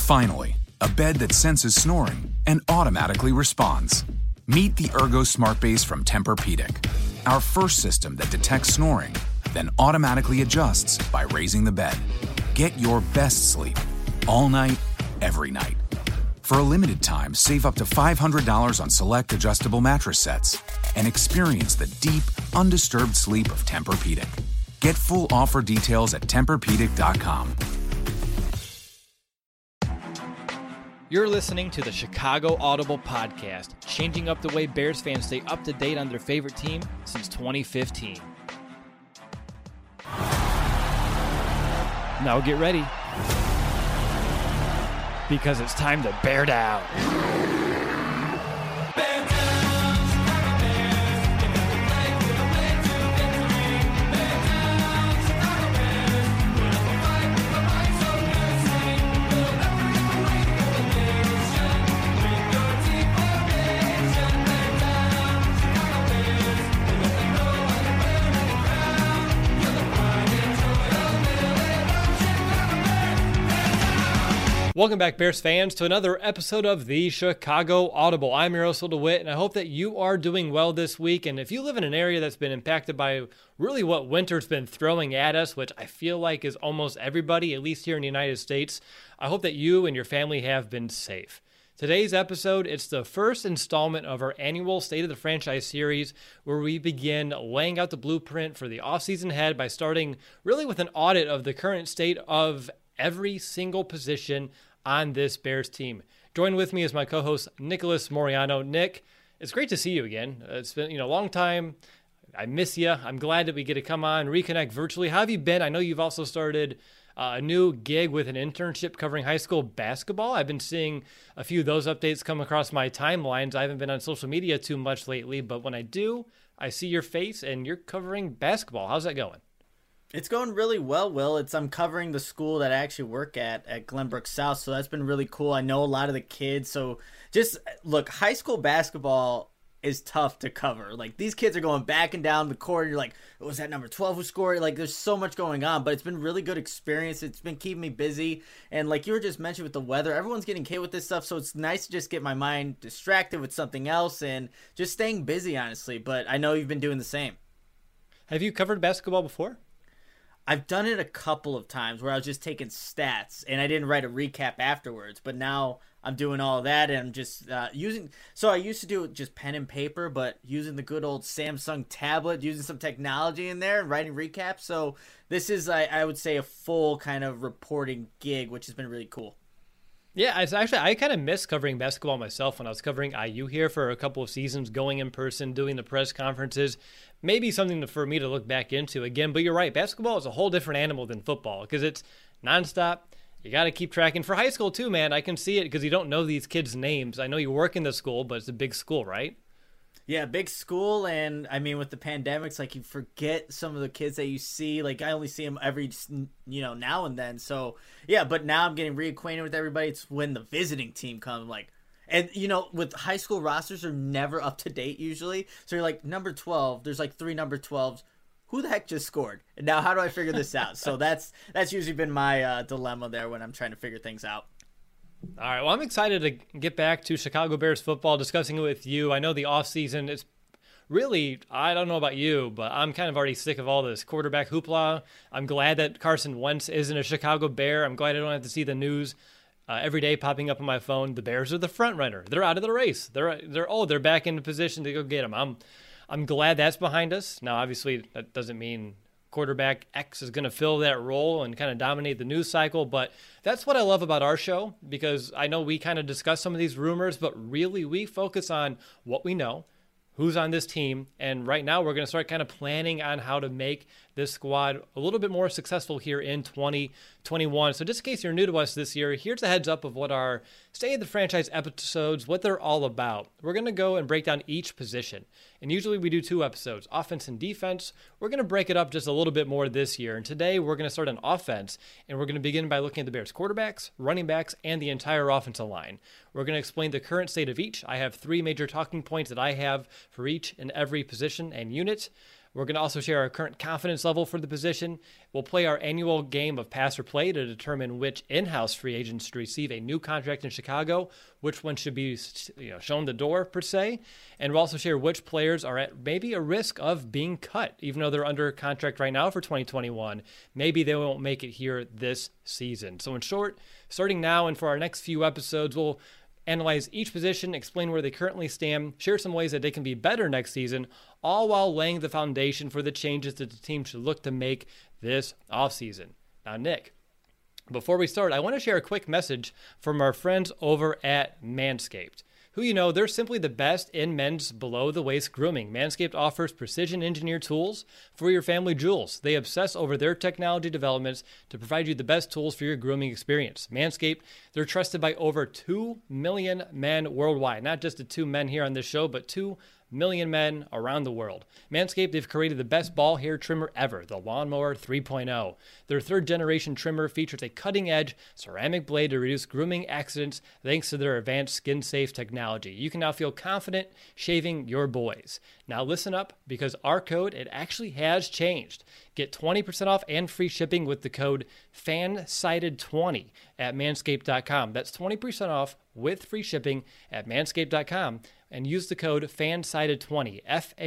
Finally, a bed that senses snoring and automatically responds. Meet the Ergo Smart Base from Tempur-Pedic, our first system that detects snoring, then automatically adjusts by raising the bed. Get your best sleep all night, every night. For a limited time, save up to $500 on select adjustable mattress sets and experience the deep, undisturbed sleep of Tempur-Pedic. Get full offer details at TempurPedic.com. You're listening to the Chicago Audible Podcast, changing up the way Bears fans stay up to date on their favorite team since 2015. Now get ready, because it's time to bear down. Welcome back, Bears fans, to another episode of the Chicago Audible. I'm your host, Will DeWitt, and I hope that you are doing well this week. And if you live in an area that's been impacted by really what winter's been throwing at us, which I feel like is almost everybody, at least here in the United States, I hope that you and your family have been safe. Today's episode, it's the first installment of our annual State of the Franchise series, where we begin laying out the blueprint for the offseason ahead by starting really with an audit of the current state of every single position on this Bears team. Join with me is my co-host, Nicholas Moriano. Nick, it's great to see you again. It's been a long time. I miss you. I'm glad that we get to come on, reconnect virtually. How have you been? I know you've also started a new gig with an internship covering high school basketball. I've been seeing a few of those updates come across my timelines. I haven't been on social media too much lately, but when I do, I see your face and you're covering basketball. How's that going? It's going really well, Will. I'm covering the school that I actually work at Glenbrook South, so that's been really cool. I know a lot of the kids, so just look, high school basketball is tough to cover. Like, these kids are going back and down the court, and you're like, was that number 12 who scored? Like, there's so much going on, but it's been really good experience. It's been keeping me busy, and like you were just mentioning with the weather, everyone's getting hit with this stuff, so it's nice to just get my mind distracted with something else and just staying busy, honestly. But I know you've been doing the same. Have you covered basketball before? I've done it a couple of times where I was just taking stats and I didn't write a recap afterwards, but now I'm doing all of that and I'm just using, so I used to do it just pen and paper, but using the good old Samsung tablet, using some technology in there and writing recaps. So this is, I would say, a full kind of reporting gig, which has been really cool. Yeah, it's actually, I kind of miss covering basketball myself when I was covering IU here for a couple of seasons, going in person, doing the press conferences. Maybe something for me to look back into again. But you're right, basketball is a whole different animal than football because it's nonstop. You got to keep tracking. For high school too, man, I can see it because you don't know these kids' names. I know you work in the school, but it's a big school, right? Yeah, big school, and I mean with the pandemics, like you forget some of the kids that you see. Like I only see them every, now and then. So yeah, but now I'm getting reacquainted with everybody. It's when the visiting team comes, like, and with high school rosters are never up to date usually. So you're like number 12. There's like 3 number 12s. Who the heck just scored? And now how do I figure this out? So that's usually been my dilemma there when I'm trying to figure things out. All right, well, I'm excited to get back to Chicago Bears football, discussing it with you. I know the offseason is really, I don't know about you, but I'm kind of already sick of all this quarterback hoopla. I'm glad that Carson Wentz isn't a Chicago Bear. I'm glad I don't have to see the news every day popping up on my phone. The Bears are the front runner. They're out of the race. They're back in position to go get them. I'm glad that's behind us. Now, obviously, that doesn't mean quarterback X is going to fill that role and kind of dominate the news cycle. But that's what I love about our show, because I know we kind of discuss some of these rumors, but really we focus on what we know, who's on this team. And right now we're going to start kind of planning on how to make this squad a little bit more successful here in 2021. So just in case you're new to us this year, here's a heads up of what our State of the Franchise episodes, what they're all about. We're going to go and break down each position. And usually we do 2 episodes, offense and defense. We're going to break it up just a little bit more this year. And today we're going to start on offense, and we're going to begin by looking at the Bears quarterbacks, running backs, and the entire offensive line. We're going to explain the current state of each. I have 3 major talking points that I have for each and every position and unit. We're going to also share our current confidence level for the position. We'll play our annual game of pass or play to determine which in-house free agents to receive a new contract in Chicago, which one should be shown the door, per se. And we'll also share which players are at maybe a risk of being cut, even though they're under contract right now for 2021. Maybe they won't make it here this season. So in short, starting now and for our next few episodes, we'll analyze each position, explain where they currently stand, share some ways that they can be better next season, all while laying the foundation for the changes that the team should look to make this offseason. Now, Nick, before we start, I want to share a quick message from our friends over at Manscaped, who, they're simply the best in men's below-the-waist grooming. Manscaped offers precision-engineered tools for your family jewels. They obsess over their technology developments to provide you the best tools for your grooming experience. Manscaped, they're trusted by over 2 million men worldwide. Not just the 2 men here on this show, but 2 million men around the world. Manscaped, they've created the best ball hair trimmer ever, the Lawnmower 3.0. Their third-generation trimmer features a cutting-edge ceramic blade to reduce grooming accidents thanks to their advanced skin-safe technology. You can now feel confident shaving your boys. Now listen up, because our code, it actually has changed. Get 20% off and free shipping with the code FANSIDED20 at manscaped.com. That's 20% off with free shipping at manscaped.com. And use the code FANSIDED20,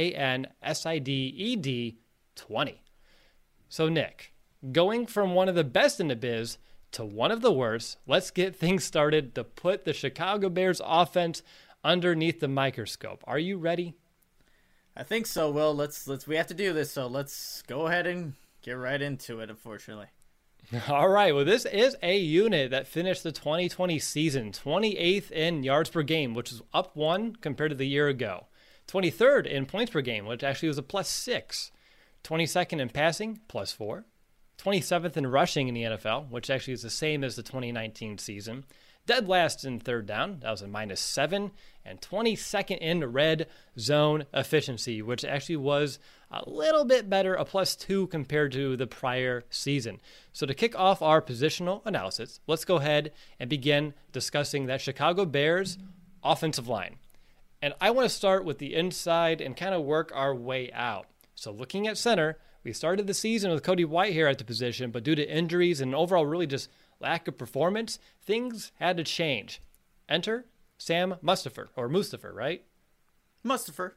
FANSIDED 20. So, Nick, going from one of the best in the biz to one of the worst, let's get things started to put the Chicago Bears offense underneath the microscope. Are you ready? I think so, Will. We have to do this, so let's go ahead and get right into it, unfortunately. All right. Well, this is a unit that finished the 2020 season 28th in yards per game, which is up 1 compared to the year ago. 23rd in points per game, which actually was a +6. 22nd in passing, +4. 27th in rushing in the NFL, which actually is the same as the 2019 season. Dead last in third down, that was a -7. And 22nd in red zone efficiency, which actually was a little bit better, a +2 compared to the prior season. So to kick off our positional analysis, let's go ahead and begin discussing that Chicago Bears offensive line. And I want to start with the inside and kind of work our way out. So looking at center, we started the season with Cody Whitehair at the position, but due to injuries and overall really just lack of performance, things had to change. Enter Sam Mustipher, right? Mustipher.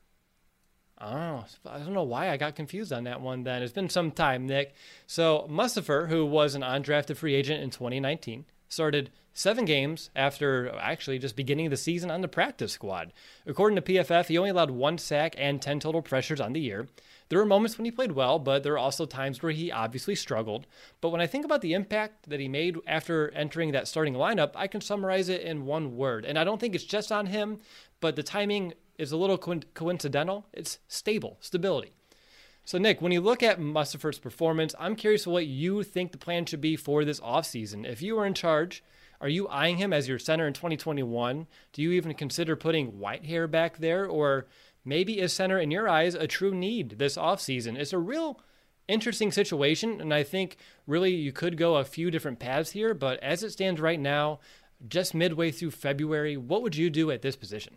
Oh, I don't know why I got confused on that one then. It's been some time, Nick. So Mustipher, who was an undrafted free agent in 2019, started 7 games after actually just beginning the season on the practice squad. According to PFF, he only allowed 1 sack and 10 total pressures on the year. There were moments when he played well, but there were also times where he obviously struggled. But when I think about the impact that he made after entering that starting lineup, I can summarize it in one word. And I don't think it's just on him, but the timing is a little coincidental. It's stability. So, Nick, when you look at Mustipher's performance, I'm curious what you think the plan should be for this offseason. If you were in charge, are you eyeing him as your center in 2021? Do you even consider putting Whitehair back there? Or maybe is center, in your eyes, a true need this offseason? It's a real interesting situation, and I think really you could go a few different paths here. But as it stands right now, just midway through February, what would you do at this position?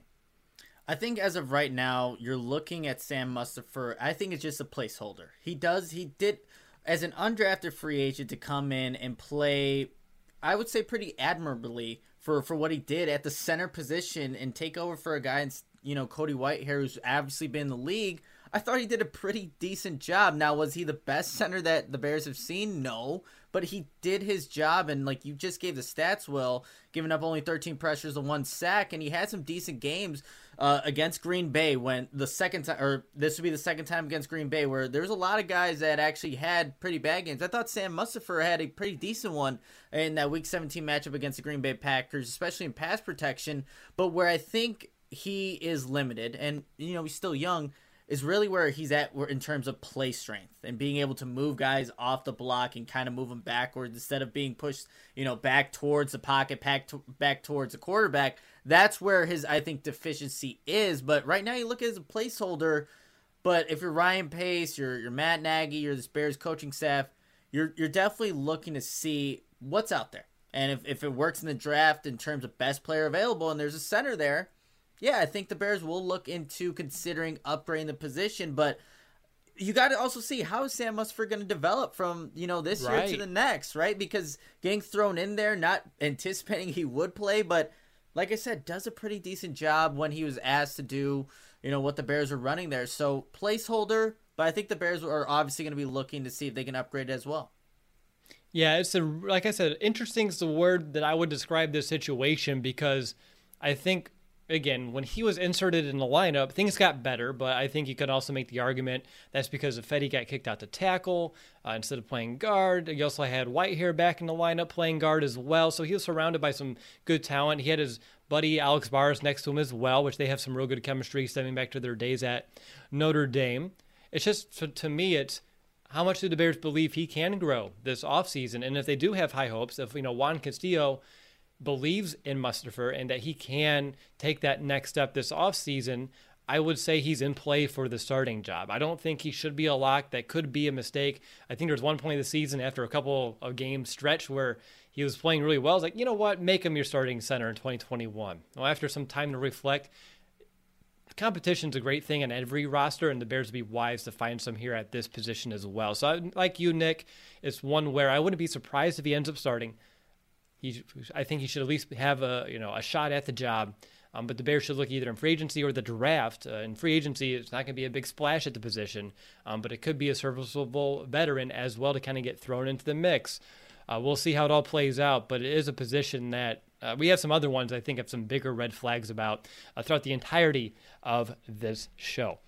I think as of right now, you're looking at Sam Mustipher. I think it's just a placeholder. He did, as an undrafted free agent, to come in and play, I would say, pretty admirably for what he did at the center position and take over for a guy, Cody Whitehair, who's obviously been in the league. I thought he did a pretty decent job. Now, was he the best center that the Bears have seen? No, but he did his job, and like you just gave the stats, Will, giving up only 13 pressures and 1 sack, and he had some decent games against Green Bay when the second time, or this would be the second time against Green Bay, where there's a lot of guys that actually had pretty bad games. I thought Sam Mustipher had a pretty decent one in that Week 17 matchup against the Green Bay Packers, especially in pass protection, but where I think he is limited, and he's still young, is really where he's at in terms of play strength and being able to move guys off the block and kind of move them backwards instead of being pushed, back towards the pocket, back towards the quarterback. That's where his, I think, deficiency is. But right now you look at it as a placeholder. But if you're Ryan Pace, you're Matt Nagy, you're the Bears coaching staff, you're definitely looking to see what's out there. And if it works in the draft in terms of best player available and there's a center there, yeah, I think the Bears will look into considering upgrading the position. But you got to also see how is Sam Musford going to develop from, this year to the next, right? Because getting thrown in there, not anticipating he would play, but like I said, does a pretty decent job when he was asked to do, what the Bears are running there. So placeholder, but I think the Bears are obviously going to be looking to see if they can upgrade as well. Yeah, like I said, interesting is the word that I would describe this situation, because I think, again, when he was inserted in the lineup, things got better, but I think you could also make the argument that's because Ifedi got kicked out to tackle instead of playing guard. You also had Whitehair back in the lineup playing guard as well, so he was surrounded by some good talent. He had his buddy Alex Bars next to him as well, which they have some real good chemistry stemming back to their days at Notre Dame. It's just, to me, it's how much do the Bears believe he can grow this offseason? And if they do have high hopes, if Juan Castillo believes in Mustipher and that he can take that next step this offseason, I would say he's in play for the starting job. I don't think he should be a lock. That could be a mistake. I think there's one point in the season after a couple of games stretch where he was playing really well. I was like, you know what? Make him your starting center in 2021. Well, after some time to reflect, competition's a great thing on every roster, and the Bears would be wise to find some here at this position as well. So like you, Nick, it's one where I wouldn't be surprised if he ends up starting. I think he should at least have a shot at the job. But the Bears should look either in free agency or the draft. In free agency, it's not going to be a big splash at the position, but it could be a serviceable veteran as well to kind of get thrown into the mix. We'll see how it all plays out, but it is a position that we have some other ones I think have some bigger red flags about throughout the entirety of this show.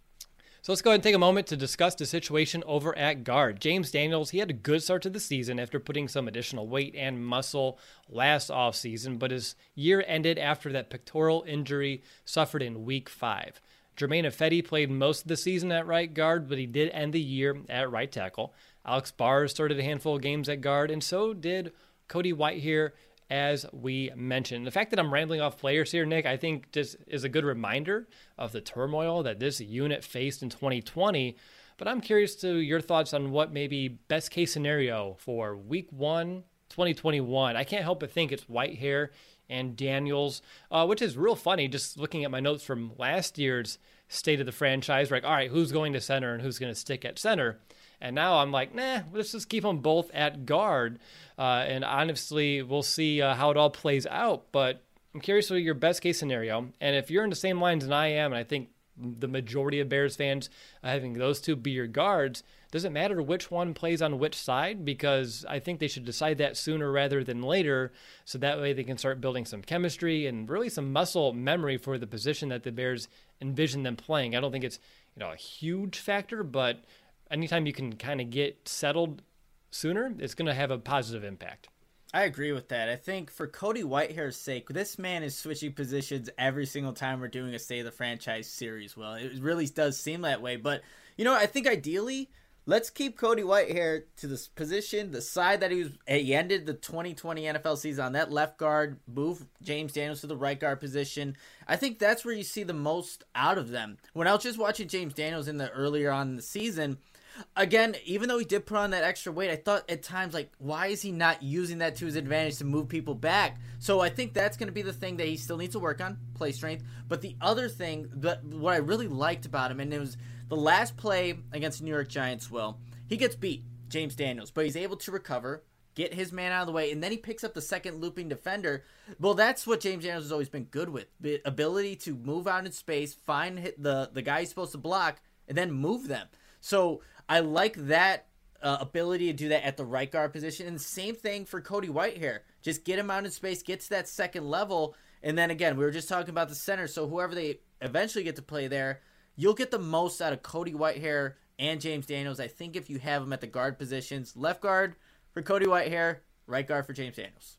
So let's go ahead and take a moment to discuss the situation over at guard. James Daniels, he had a good start to the season after putting some additional weight and muscle last offseason, but his year ended after that pectoral injury suffered in Week 5. Germain Ifedi played most of the season at right guard, but he did end the year at right tackle. Alex Bars started a handful of games at guard, and so did Cody Whitehair, as we mentioned. The fact that I'm rambling off players here, Nick, I think just is a good reminder of the turmoil that this unit faced in 2020. But I'm curious to your thoughts on what may be best case scenario for Week 1, 2021. I can't help but think it's Whitehair and Daniels, which is real funny just looking at my notes from last year's State of the Franchise. We're like, all right, who's going to center and who's going to stick at center? And now I'm like, let's just keep them both at guard. And honestly, we'll see how it all plays out. But I'm curious what your best case scenario. And if you're in the same lines than I am, and I think the majority of Bears fans having those two be your guards, does it matter which one plays on which side? Because I think they should decide that sooner rather than later, so that way they can start building some chemistry and really some muscle memory for the position that the Bears envision them playing. I don't think it's a huge factor, but anytime you can kind of get settled sooner, it's going to have a positive impact. I agree with that. I think for Cody Whitehair's sake, this man is switching positions every single time we're doing a State of the Franchise series. Well, it really does seem that way. But, I think ideally, let's keep Cody Whitehair to this position, the side that he ended the 2020 NFL season on, that left guard, move James Daniels to the right guard position. I think that's where you see the most out of them. When I was just watching James Daniels earlier on in the season, again, even though he did put on that extra weight, I thought at times, why is he not using that to his advantage to move people back? So I think that's going to be the thing that he still needs to work on, play strength. But the other thing, what I really liked about him, and it was the last play against the New York Giants, he gets beat, James Daniels, but he's able to recover, get his man out of the way, and then he picks up the second looping defender. Well, that's what James Daniels has always been good with, the ability to move out in space, find the guy he's supposed to block, and then move them. So I like that ability to do that at the right guard position. And the same thing for Cody Whitehair. Just get him out in space, get to that second level. And then again, we were just talking about the center. So whoever they eventually get to play there, you'll get the most out of Cody Whitehair and James Daniels. I think if you have them at the guard positions, left guard for Cody Whitehair, right guard for James Daniels.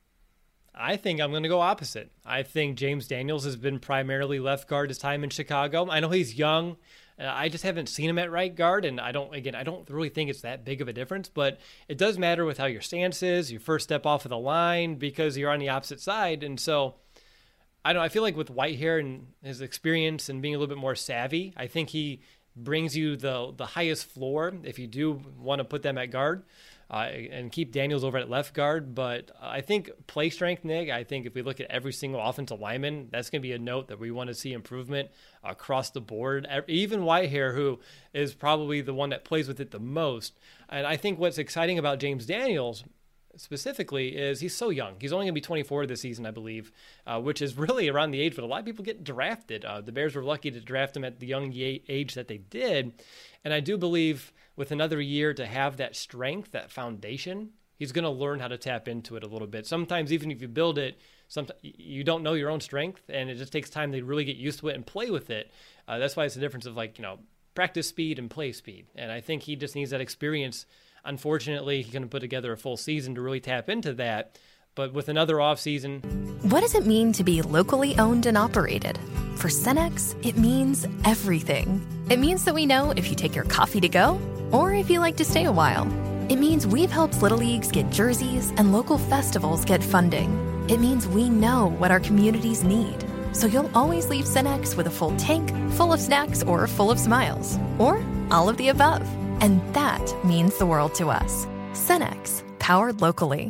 I think I'm going to go opposite. I think James Daniels has been primarily left guard his time in Chicago. I know he's young. I just haven't seen him at right guard, and I don't really think it's that big of a difference, but it does matter with how your stance is, your first step off of the line, because you're on the opposite side. And so I feel like with Whitehair and his experience and being a little bit more savvy, I think he brings you the highest floor if you do want to put them at guard. and keep Daniels over at left guard. But I think play strength, Nick, I think if we look at every single offensive lineman, that's going to be a note that we want to see improvement across the board. Even Whitehair, who is probably the one that plays with it the most. And I think what's exciting about James Daniels specifically is he's so young. He's only going to be 24 this season, I believe, which is really around the age that a lot of people get drafted. The Bears were lucky to draft him at the young age that they did. And I do believe with another year to have that strength, that foundation, he's going to learn how to tap into it a little bit. Sometimes even if you build it, sometimes you don't know your own strength, and it just takes time to really get used to it and play with it. That's why it's the difference of practice speed and play speed. And I think he just needs that experience. Unfortunately, he couldn't put together a full season to really tap into that. But with another offseason. What does it mean to be locally owned and operated? For Cenex, it means everything. It means that we know if you take your coffee to go or if you like to stay a while. It means we've helped Little Leagues get jerseys and local festivals get funding. It means we know what our communities need. So you'll always leave Cenex with a full tank, full of snacks, or full of smiles. Or all of the above. And that means the world to us. Cenex, powered locally.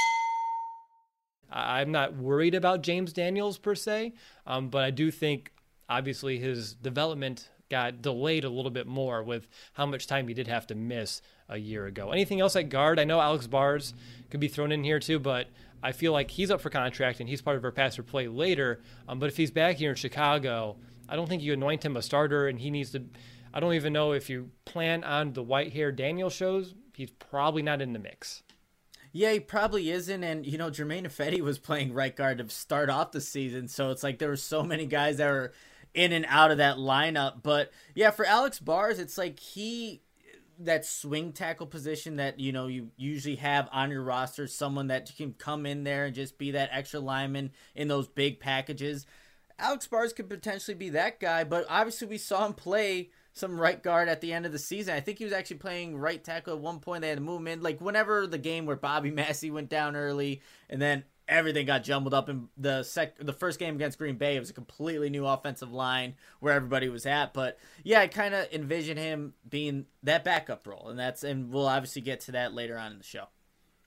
I'm not worried about James Daniels per se, but I do think obviously his development got delayed a little bit more with how much time he did have to miss a year ago. Anything else at guard? I know Alex Bars could be thrown in here too, but I feel like he's up for contract and he's part of our pass or play later. But if he's back here in Chicago, I don't think you anoint him a starter, and he needs to. I don't even know if you plan on the Whitehair Daniel shows. He's probably not in the mix. Yeah, he probably isn't. And, Jermaine Ifedi was playing right guard to start off the season. So it's like there were so many guys that were in and out of that lineup. But, yeah, for Alex Bars, it's like that swing tackle position that, you usually have on your roster, someone that can come in there and just be that extra lineman in those big packages. Alex Bars could potentially be that guy, but obviously we saw him play some right guard at the end of the season. I think he was actually playing right tackle at one point. They had to move him in. Like whenever the game where Bobby Massey went down early and then everything got jumbled up in the first game against Green Bay, it was a completely new offensive line where everybody was at. But yeah, I kind of envision him being that backup role, and we'll obviously get to that later on in the show.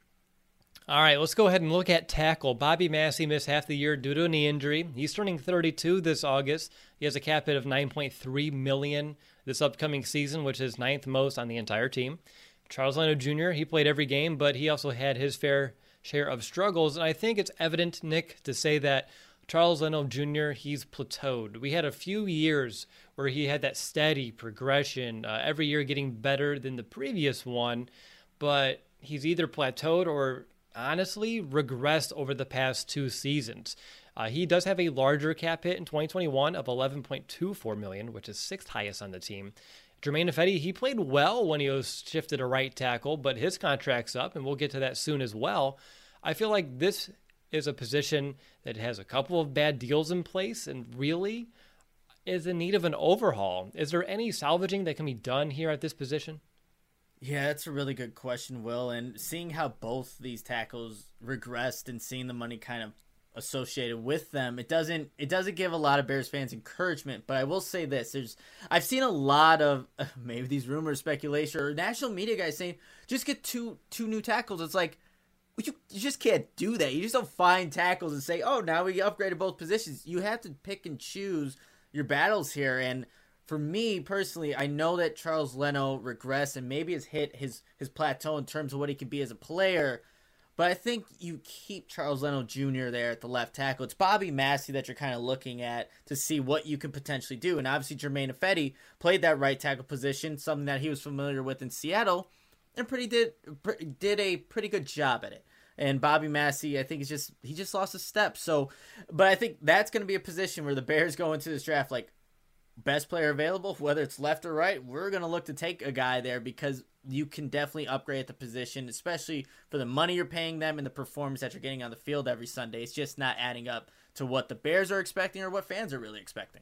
All right, let's go ahead and look at tackle. Bobby Massey missed half the year due to a knee injury. He's turning 32 this August. He has a cap hit of $9.3 million this upcoming season, which is ninth most on the entire team. Charles Leno Jr., he played every game, but he also had his fair share of struggles. And I think it's evident, Nick, to say that Charles Leno Jr., he's plateaued. We had a few years where he had that steady progression, every year getting better than the previous one, but he's either plateaued or honestly regressed over the past two seasons. He does have a larger cap hit in 2021 of $11.24 million, which is sixth highest on the team. Jermaine Ifedi, he played well when he was shifted to right tackle, but his contract's up, and we'll get to that soon as well. I feel like this is a position that has a couple of bad deals in place and really is in need of an overhaul. Is there any salvaging that can be done here at this position? Yeah, that's a really good question, Will. And seeing how both these tackles regressed and seeing the money kind of associated with them, it doesn't give a lot of Bears fans encouragement. But I will say this: I've seen a lot of maybe these rumors, speculation, or national media guys saying just get two new tackles. It's like you just can't do that. You just don't find tackles and say, oh, now we upgraded both positions. You have to pick and choose your battles here. And for me personally, I know that Charles Leno regressed and maybe has hit his plateau in terms of what he can be as a player. But I think you keep Charles Leno Jr. there at the left tackle. It's Bobby Massey that you're kind of looking at to see what you could potentially do. And obviously Jermaine Ifedi played that right tackle position, something that he was familiar with in Seattle, and did a pretty good job at it. And Bobby Massey, I think he just lost a step. So, but I think that's going to be a position where the Bears go into this draft like, best player available, whether it's left or right, we're going to look to take a guy there because you can definitely upgrade at the position, especially for the money you're paying them and the performance that you're getting on the field every Sunday. It's just not adding up to what the Bears are expecting or what fans are really expecting.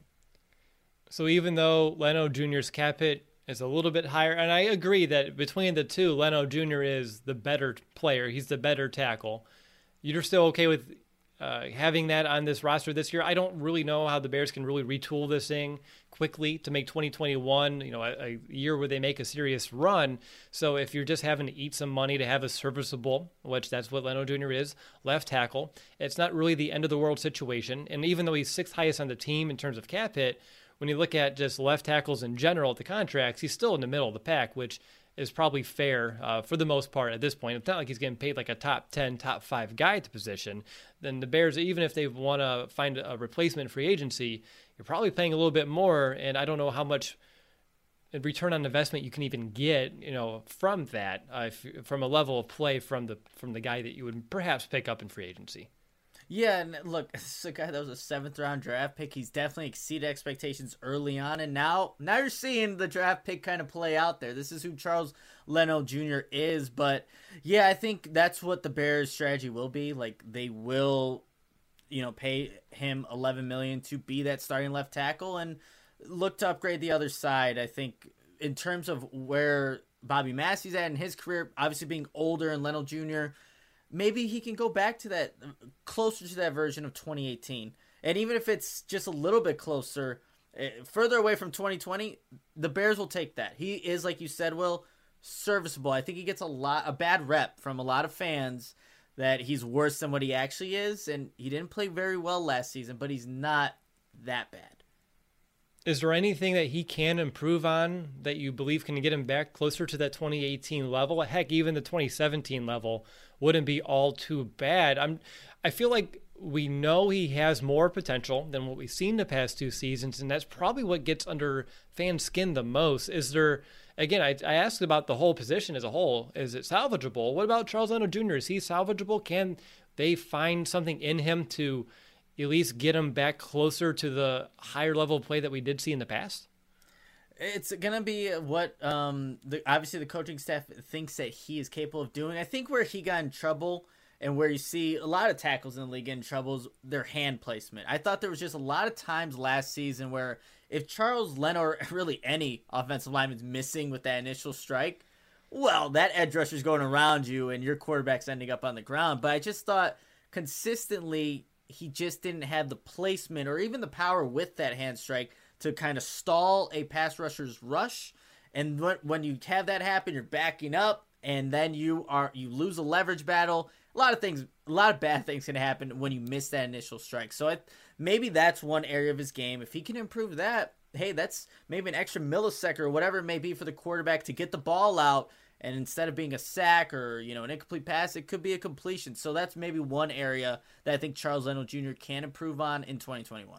So even though Leno Jr.'s cap hit is a little bit higher, and I agree that between the two, Leno Jr. is the better player. He's the better tackle. You're still okay with having that on this roster this year. I don't really know how the Bears can really retool this thing quickly to make 2021, a year where they make a serious run. So if you're just having to eat some money to have a serviceable, which that's what Leno Jr. is, left tackle, it's not really the end of the world situation. And even though he's sixth highest on the team in terms of cap hit, when you look at just left tackles in general at the contracts, he's still in the middle of the pack, which is probably fair for the most part at this point. It's not like he's getting paid like a top 10, top 5 guy at the position. Then the Bears, even if they want to find a replacement free agency, you're probably paying a little bit more, and I don't know how much return on investment you can even get, from that, from a level of play from the guy that you would perhaps pick up in free agency. Yeah, and look, this is a guy that was a 7th-round draft pick. He's definitely exceeded expectations early on, and now you're seeing the draft pick kind of play out there. This is who Charles Leno Jr. is, but yeah, I think that's what the Bears' strategy will be. Like, they will, pay him $11 million to be that starting left tackle and look to upgrade the other side. I think in terms of where Bobby Massey's at in his career, obviously being older and Leno Jr., maybe he can go back to that, closer to that version of 2018. And even if it's just a little bit closer, further away from 2020, the Bears will take that. He is, like you said, Will, serviceable. I think he gets a bad rep from a lot of fans that he's worse than what he actually is. And he didn't play very well last season, but he's not that bad. Is there anything that he can improve on that you believe can get him back closer to that 2018 level? Heck, even the 2017 level wouldn't be all too bad. I feel like we know he has more potential than what we've seen the past 2 seasons, and that's probably what gets under fan skin the most. Is there, again, I asked about the whole position as a whole. Is it salvageable? What about Charles Leno Jr.? Is he salvageable? Can they find something in him to at least get him back closer to the higher level play that we did see in the past? It's going to be what obviously the coaching staff thinks that he is capable of doing. I think where he got in trouble and where you see a lot of tackles in the league get in trouble is their hand placement. I thought there was just a lot of times last season where if Charles Leno or really any offensive lineman's missing with that initial strike, well, that edge rusher's going around you and your quarterback's ending up on the ground. But I just thought consistently he just didn't have the placement or even the power with that hand strike to kind of stall a pass rusher's rush. And when you have that happen, you're backing up, and then you lose a leverage battle. A lot of bad things can happen when you miss that initial strike. So maybe that's one area of his game. If he can improve that, hey, that's maybe an extra millisecond or whatever it may be for the quarterback to get the ball out. And instead of being a sack or, an incomplete pass, it could be a completion. So that's maybe one area that I think Charles Leno Jr. can improve on in 2021.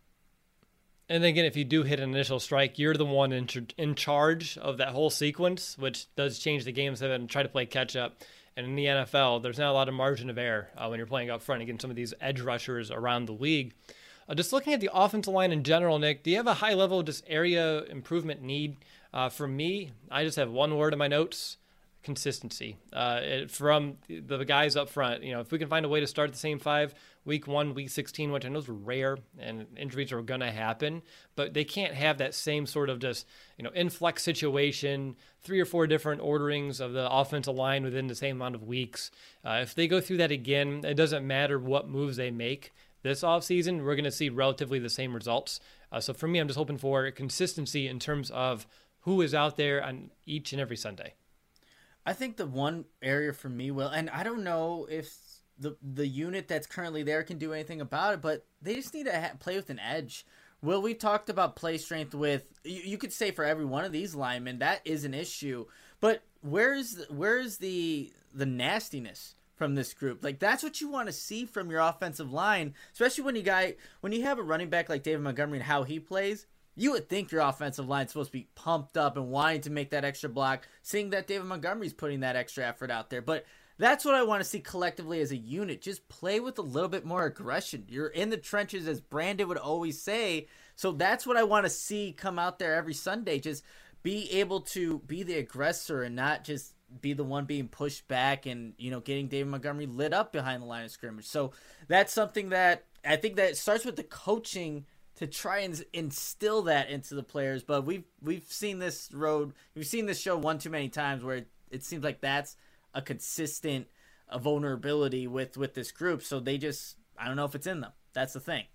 And again, if you do hit an initial strike, you're the one in charge of that whole sequence, which does change the game and try to play catch up. And in the NFL, there's not a lot of margin of error when you're playing up front against some of these edge rushers around the league. Just looking at the offensive line in general, Nick, do you have a high level just area improvement need? For me, I just have one word in my notes: consistency. From the guys up front, if we can find a way to start the same 5, week 1, week 16, which I know is rare and injuries are going to happen, but they can't have that same sort of just, influx situation, 3 or 4 different orderings of the offensive line within the same amount of weeks. If they go through that again, it doesn't matter what moves they make this offseason, we're going to see relatively the same results. So for me, I'm just hoping for consistency in terms of who is out there on each and every Sunday. I think the one area for me, Will, and I don't know if the unit that's currently there can do anything about it, but they just need to play with an edge. Will, we talked about play strength with, you could say for every one of these linemen, that is an issue. But where's the nastiness from this group? Like, that's what you want to see from your offensive line, especially when you have a running back like David Montgomery and how he plays. You would think your offensive line is supposed to be pumped up and wanting to make that extra block, seeing that David Montgomery's putting that extra effort out there. But that's what I want to see collectively as a unit. Just play with a little bit more aggression. You're in the trenches, as Brandon would always say. So that's what I want to see come out there every Sunday. Just be able to be the aggressor and not just be the one being pushed back and, getting David Montgomery lit up behind the line of scrimmage. So that's something that I think that starts with the coaching to try and instill that into the players. But we've seen this show one too many times where it seems like that's a consistent vulnerability with this group. So they just I don't know if it's in them. That's the thing.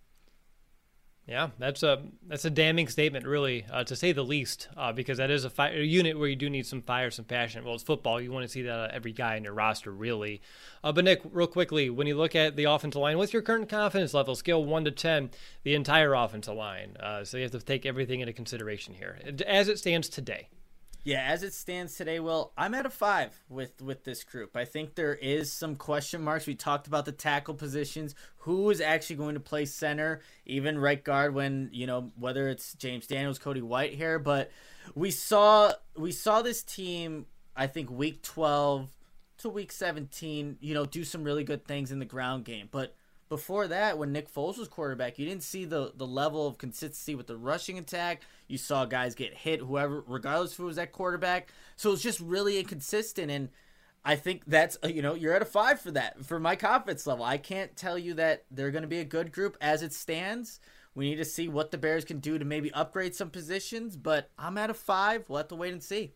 Yeah, that's a damning statement, really, to say the least, because that is a unit where you do need some fire, some passion. Well, it's football. You want to see that out of every guy in your roster, really. But, Nick, real quickly, when you look at the offensive line, what's your current confidence level, scale 1 to 10, the entire offensive line? So you have to take everything into consideration here, as it stands today. Yeah, as it stands today, Will, I'm at a 5 with this group. I think there is some question marks. We talked about the tackle positions. Who is actually going to play center, even right guard when, whether it's James Daniels, Cody Whitehair. But we saw this team, I think, week 12 to week 17, do some really good things in the ground game. But before that, when Nick Foles was quarterback, you didn't see the level of consistency with the rushing attack. You saw guys get hit, whoever, regardless of who was at quarterback. So it's just really inconsistent. And I think that's, you're at a 5 for that, for my confidence level. I can't tell you that they're going to be a good group as it stands. We need to see what the Bears can do to maybe upgrade some positions. But I'm at a 5. We'll have to wait and see.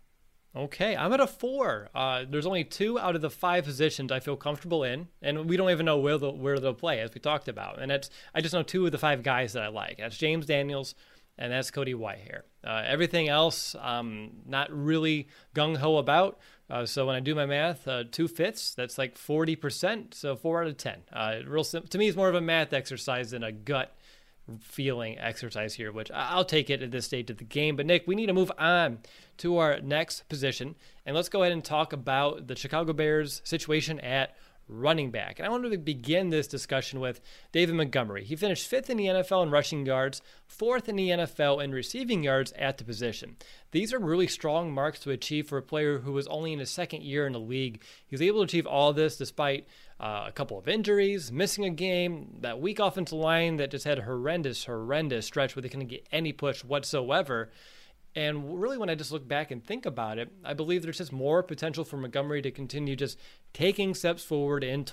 Okay, I'm at a 4. There's only 2 out of the 5 positions I feel comfortable in, and we don't even know where they'll play, as we talked about. And I just know 2 of the 5 guys that I like. That's James Daniels, and that's Cody Whitehair. Everything else, not really gung-ho about. So when I do my math, 2 fits, that's like 40%, so 4 out of 10. To me, it's more of a math exercise than a gut feeling exercise here, which I'll take it at this stage of the game. But Nick, we need to move on to our next position, and let's go ahead and talk about the Chicago Bears situation at running back. And I wanted to begin this discussion with David Montgomery. He finished 5th in the NFL in rushing yards, 4th in the NFL in receiving yards at the position. These are really strong marks to achieve for a player who was only in his second year in the league. He was able to achieve all this despite a couple of injuries, missing a game, that weak offensive line that just had a horrendous stretch where they couldn't get any push whatsoever. And really, when I just look back and think about it, I believe there's just more potential for Montgomery to continue just taking steps forward in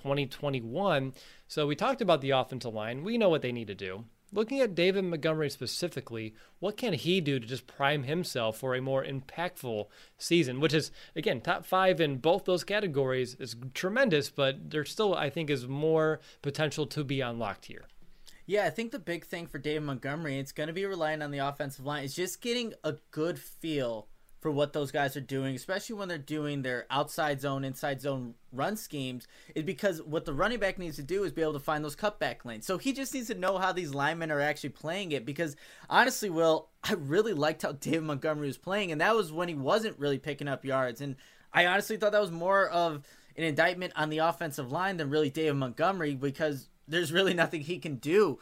2021. So we talked about the offensive line. We know what they need to do. Looking at David Montgomery specifically, what can he do to just prime himself for a more impactful season, which is, again, top 5 in both those categories is tremendous, but there still, I think, is more potential to be unlocked here. Yeah, I think the big thing for David Montgomery, it's going to be relying on the offensive line, is just getting a good feel for what those guys are doing, especially when they're doing their outside zone, inside zone run schemes, is because what the running back needs to do is be able to find those cutback lanes. So he just needs to know how these linemen are actually playing it, because honestly, Will, I really liked how David Montgomery was playing, and that was when he wasn't really picking up yards. And I honestly thought that was more of an indictment on the offensive line than really David Montgomery, because there's really nothing he can do.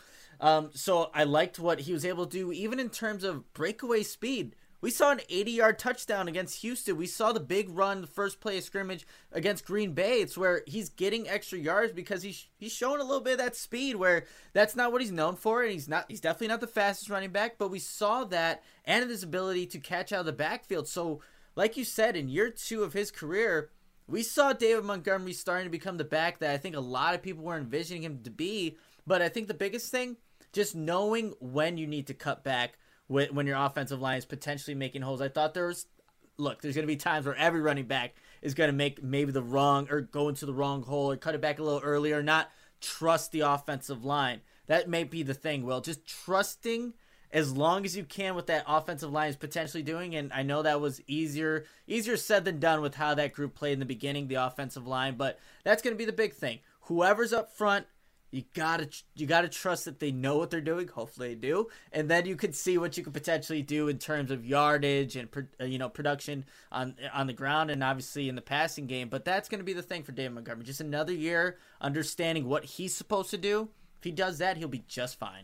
So I liked what he was able to do, even in terms of breakaway speed. We saw an 80-yard touchdown against Houston. We saw the big run, the first play of scrimmage against Green Bay. It's where he's getting extra yards because he's showing a little bit of that speed, where that's not what he's known for, and he's definitely not the fastest running back, but we saw that and his ability to catch out of the backfield. So like you said, in year 2 of his career, we saw David Montgomery starting to become the back that I think a lot of people were envisioning him to be. But I think the biggest thing, just knowing when you need to cut back when your offensive line is potentially making holes. I thought there's going to be times where every running back is going to make maybe the wrong, or go into the wrong hole, or cut it back a little earlier, not trust the offensive line. That may be the thing, Will. Just trusting as long as you can what that offensive line is potentially doing. And I know that was easier said than done with how that group played in the beginning, the offensive line, but that's going to be the big thing. Whoever's up front, you gotta trust that they know what they're doing. Hopefully they do, and then you could see what you could potentially do in terms of yardage and production on the ground, and obviously in the passing game. But that's going to be the thing for David Montgomery. Just another year understanding what he's supposed to do. If he does that, he'll be just fine.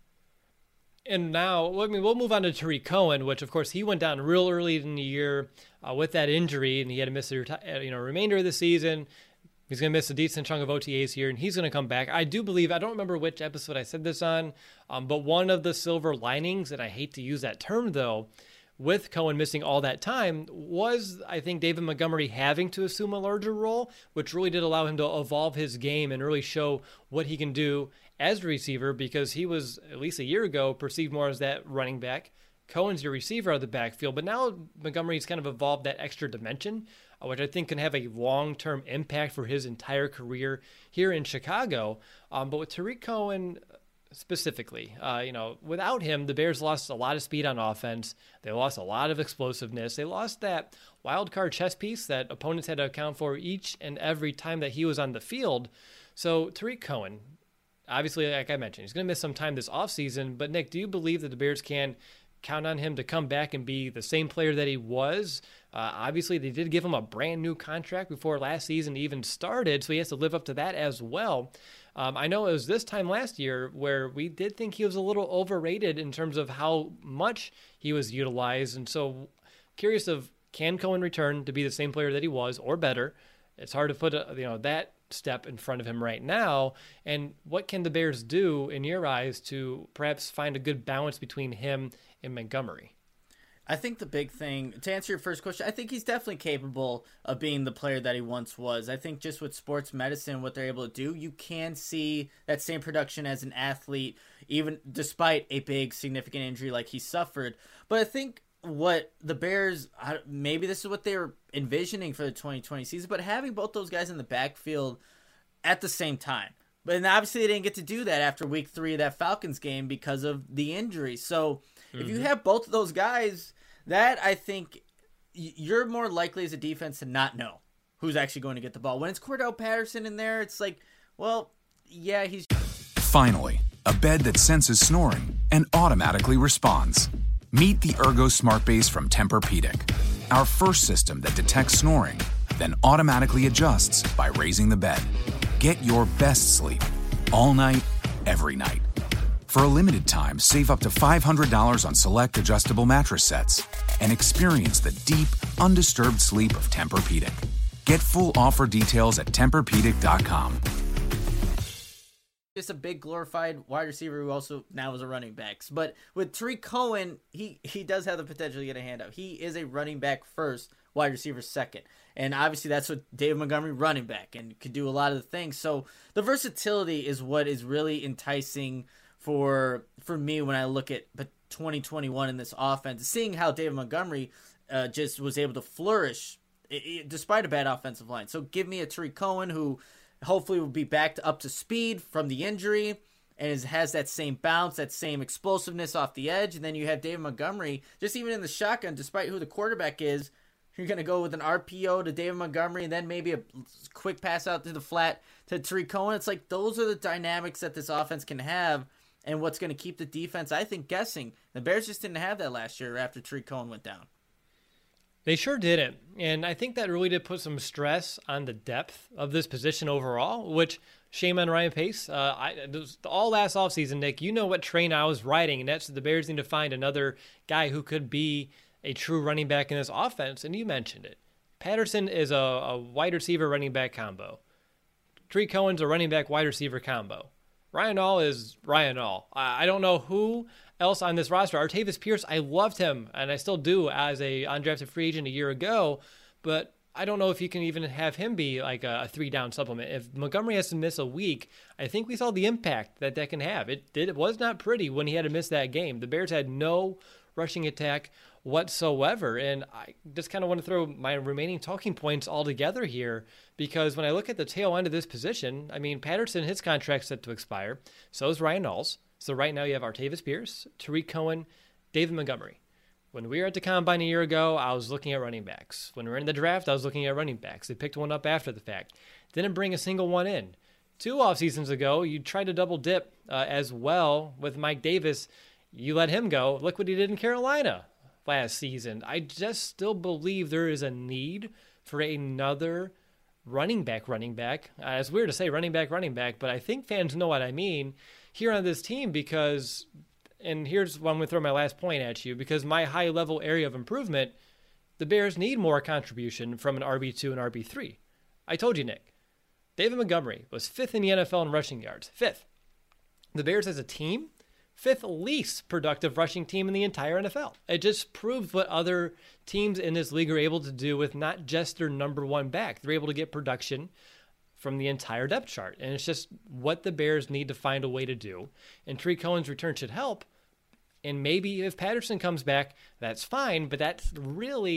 And now, we'll move on to Tariq Cohen, which, of course, he went down real early in the year with that injury, and he had to miss the remainder of the season. He's going to miss a decent chunk of OTAs here, and he's going to come back. I do believe, I don't remember which episode I said this on, but one of the silver linings, and I hate to use that term, though, with Cohen missing all that time was, I think, David Montgomery having to assume a larger role, which really did allow him to evolve his game and really show what he can do as a receiver, because he was, at least a year ago, perceived more as that running back. Cohen's your receiver out of the backfield, but now Montgomery's kind of evolved that extra dimension. which I think can have a long-term impact for his entire career here in Chicago. But with Tarik Cohen specifically, without him, the Bears lost a lot of speed on offense. They lost a lot of explosiveness. They lost that wild card chess piece that opponents had to account for each and every time that he was on the field. So Tarik Cohen, obviously, like I mentioned, he's going to miss some time this offseason. But Nick, do you believe that the Bears can count on him to come back and be the same player that he was? Obviously, they did give him a brand new contract before last season even started, so he has to live up to that as well. I know it was this time last year where we did think he was a little overrated in terms of how much he was utilized. And so curious of, can Cohen return to be the same player that he was or better? It's hard to put that step in front of him right now. And what can the Bears do in your eyes to perhaps find a good balance between him and Montgomery? I think the big thing, to answer your first question, I think he's definitely capable of being the player that he once was. I think just with sports medicine, what they're able to do, you can see that same production as an athlete, even despite a big significant injury like he suffered. But I think what the Bears, maybe this is what they were envisioning for the 2020 season, but having both those guys in the backfield at the same time. But obviously they didn't get to do that after week 3 of that Falcons game because of the injury. So if you have both of those guys, that I think you're more likely as a defense to not know who's actually going to get the ball. When it's Cordell Patterson in there, it's like, well, yeah, he's... Finally, a bed that senses snoring and automatically responds. Meet the Ergo Smart Base from Tempur-Pedic, our first system that detects snoring, then automatically adjusts by raising the bed. Get your best sleep all night, every night. For a limited time, save up to $500 on select adjustable mattress sets and experience the deep, undisturbed sleep of Tempur-Pedic. Get full offer details at TempurPedic.com. Just a big glorified wide receiver who also now is a running back. But with Tarik Cohen, he does have the potential to get a handout. He is a running back first, wide receiver second. And obviously that's what David Montgomery, running back, and could do a lot of the things. So the versatility is what is really enticing for me when I look at 2021 in this offense. Seeing how David Montgomery just was able to flourish despite a bad offensive line. So give me a Tarik Cohen who hopefully will be back up to speed from the injury and has that same bounce, that same explosiveness off the edge. And then you have David Montgomery, just even in the shotgun, despite who the quarterback is, you're going to go with an RPO to David Montgomery and then maybe a quick pass out to the flat to Tarik Cohen. It's like those are the dynamics that this offense can have and what's going to keep the defense, I think, guessing. The Bears just didn't have that last year after Tarik Cohen went down. They sure didn't. And I think that really did put some stress on the depth of this position overall, which shame on Ryan Pace. All last offseason, Nick, you know what train I was riding, and that's the Bears need to find another guy who could be a true running back in this offense, and you mentioned it. Patterson is a wide receiver running back combo. Tarik Cohen's a running back wide receiver combo. Ryan Nall is Ryan Nall. I don't know who else on this roster. Artavis Pierce, I loved him, and I still do as a undrafted free agent a year ago, but I don't know if you can even have him be like a 3-down supplement. If Montgomery has to miss a week, I think we saw the impact that can have. It was not pretty when he had to miss that game. The Bears had no rushing attack whatsoever, and I just kind of want to throw my remaining talking points all together here, because when I look at the tail end of this position, I mean, Patterson, his contract's set to expire. So is Ryan Nall's. So right now you have Artavis Pierce, Tarik Cohen, David Montgomery. When we were at the Combine a year ago, I was looking at running backs. When we were in the draft, I was looking at running backs. They picked one up after the fact. Didn't bring a single one in. 2 off seasons ago, you tried to double dip as well with Mike Davis. You let him go. Look what he did in Carolina last season. I just still believe there is a need for another running back. It's weird to say running back, but I think fans know what I mean here on this team, because, and here's why I'm going to throw my last point at you, because my high-level area of improvement, the Bears need more contribution from an RB2 and RB3. I told you, Nick. David Montgomery was 5th in the NFL in rushing yards. 5th. The Bears as a team, 5th least productive rushing team in the entire NFL. It just proves what other teams in this league are able to do with not just their number one back. They're able to get production from the entire depth chart. And it's just what the Bears need to find a way to do. And Tarik Cohen's return should help. And maybe if Patterson comes back, that's fine. But that's really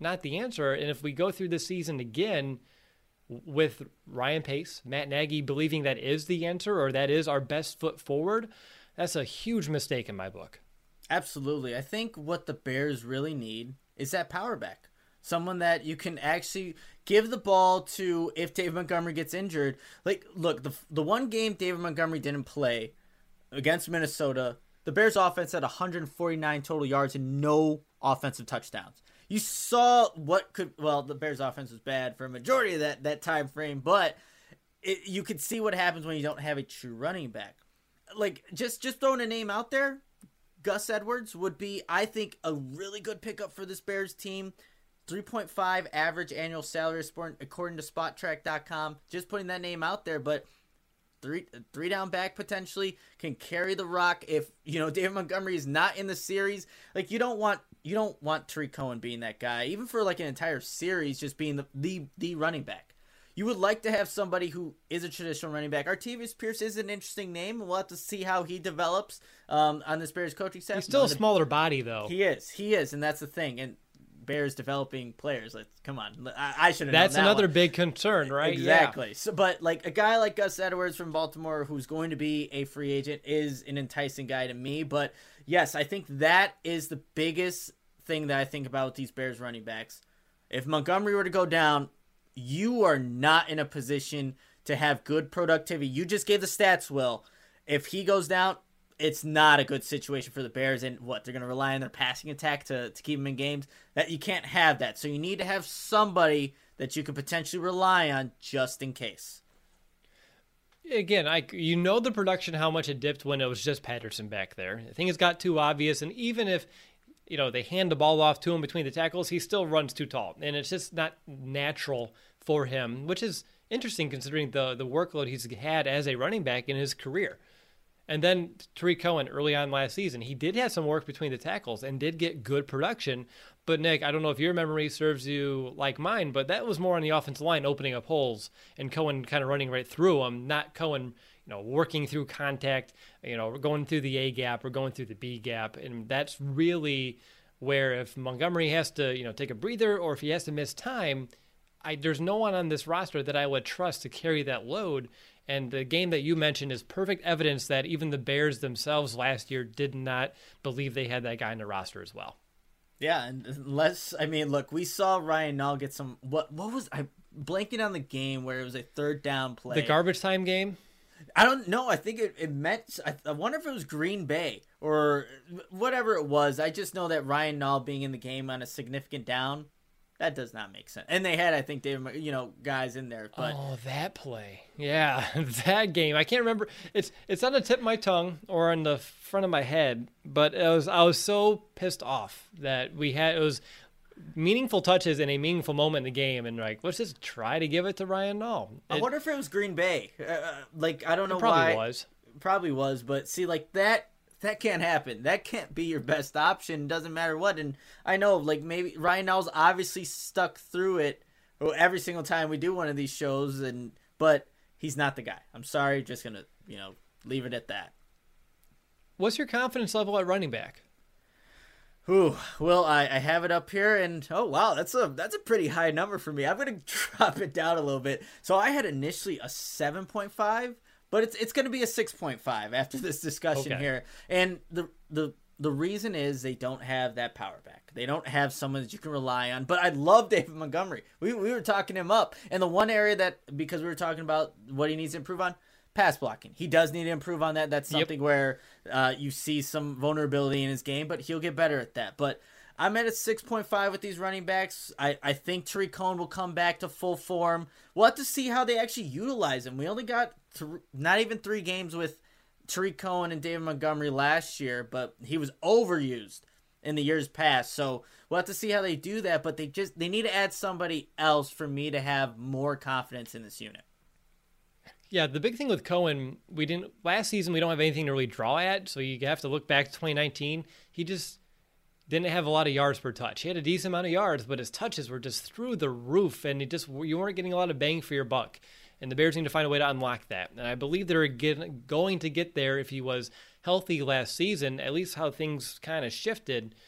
not the answer. And if we go through this season again with Ryan Pace, Matt Nagy believing that is the answer or that is our best foot forward, that's a huge mistake in my book. Absolutely. I think what the Bears really need is that power back. Someone that you can actually give the ball to if David Montgomery gets injured. Like, look, the one game David Montgomery didn't play against Minnesota, the Bears offense had 149 total yards and no offensive touchdowns. You saw the Bears offense was bad for a majority of that time frame, but you could see what happens when you don't have a true running back. Like, just throwing a name out there, Gus Edwards would be, I think, a really good pickup for this Bears team. 3.5 average annual salary according to SpotTrack.com. Just putting that name out there, but three down back potentially can carry the rock if David Montgomery is not in the series. Like, you don't want Tariq Cohen being that guy, even for like an entire series, just being the running back. You would like to have somebody who is a traditional running back. Artavius Pierce is an interesting name. We'll have to see how he develops on this Bears coaching staff. He's still a smaller body, though. He is, and that's the thing. And Bears developing players. Come on, I should have. That's known that another one. big concern, right? Exactly. Yeah. So, but like a guy like Gus Edwards from Baltimore, who's going to be a free agent, is an enticing guy to me. But yes, I think that is the biggest thing that I think about with these Bears running backs. If Montgomery were to go down, you are not in a position to have good productivity. You just gave the stats, Will. If he goes down, it's not a good situation for the Bears. And they're going to rely on their passing attack to keep them in games. That you can't have that. So you need to have somebody that you could potentially rely on just in case. Again, the production, how much it dipped when it was just Patterson back there. I think it's got too obvious. And even if they hand the ball off to him between the tackles, he still runs too tall. And it's just not natural for him, which is interesting considering the workload he's had as a running back in his career. And then Tariq Cohen early on last season, he did have some work between the tackles and did get good production. But Nick, I don't know if your memory serves you like mine, but that was more on the offensive line opening up holes and Cohen kind of running right through them, not Cohen working through contact, going through the A gap or going through the B gap. And that's really where if Montgomery has to, take a breather or if he has to miss time, there's no one on this roster that I would trust to carry that load. And the game that you mentioned is perfect evidence that even the Bears themselves last year did not believe they had that guy in the roster as well. Yeah, look, we saw Ryan Nall get some, what was, I blanking on the game where it was a third down play. The garbage time game? I don't know. I think it meant, I wonder if it was Green Bay or whatever it was. I just know that Ryan Nall being in the game on a significant down, that does not make sense. And they had, I think, guys in there. But that play. Yeah, that game. I can't remember. It's on the tip of my tongue or on the front of my head, but I was so pissed off that it was meaningful touches in a meaningful moment in the game, and let's just try to give it to Ryan Nall. I wonder if it was Green Bay. I don't know probably why. Probably was, but see, that can't happen. That can't be your best option. Doesn't matter what. And I know, maybe Ryan Nall's obviously stuck through it every single time we do one of these shows, but he's not the guy. I'm sorry, just gonna leave it at that. What's your confidence level at running back? Well, I have it up here, and oh wow, that's a pretty high number for me. I'm gonna drop it down a little bit. So I had initially a 7.5. But it's going to be a 6.5 after this discussion here. And the reason is they don't have that power back. They don't have someone that you can rely on. But I love David Montgomery. We were talking him up. And the one area that, because we were talking about what he needs to improve on, pass blocking. He does need to improve on that. That's something where you see some vulnerability in his game, but he'll get better at that. But I'm at a 6.5 with these running backs. I think Tariq Cohen will come back to full form. We'll have to see how they actually utilize him. We only got not even 3 games with Tariq Cohen and David Montgomery last year, but he was overused in the years past. So we'll have to see how they do that, but they need to add somebody else for me to have more confidence in this unit. Yeah, the big thing with Cohen, last season we don't have anything to really draw at, so you have to look back to 2019. He just didn't have a lot of yards per touch. He had a decent amount of yards, but his touches were just through the roof, and you weren't getting a lot of bang for your buck. And the Bears need to find a way to unlock that. And I believe they're going to get there if he was healthy last season, at least how things kind of shifted.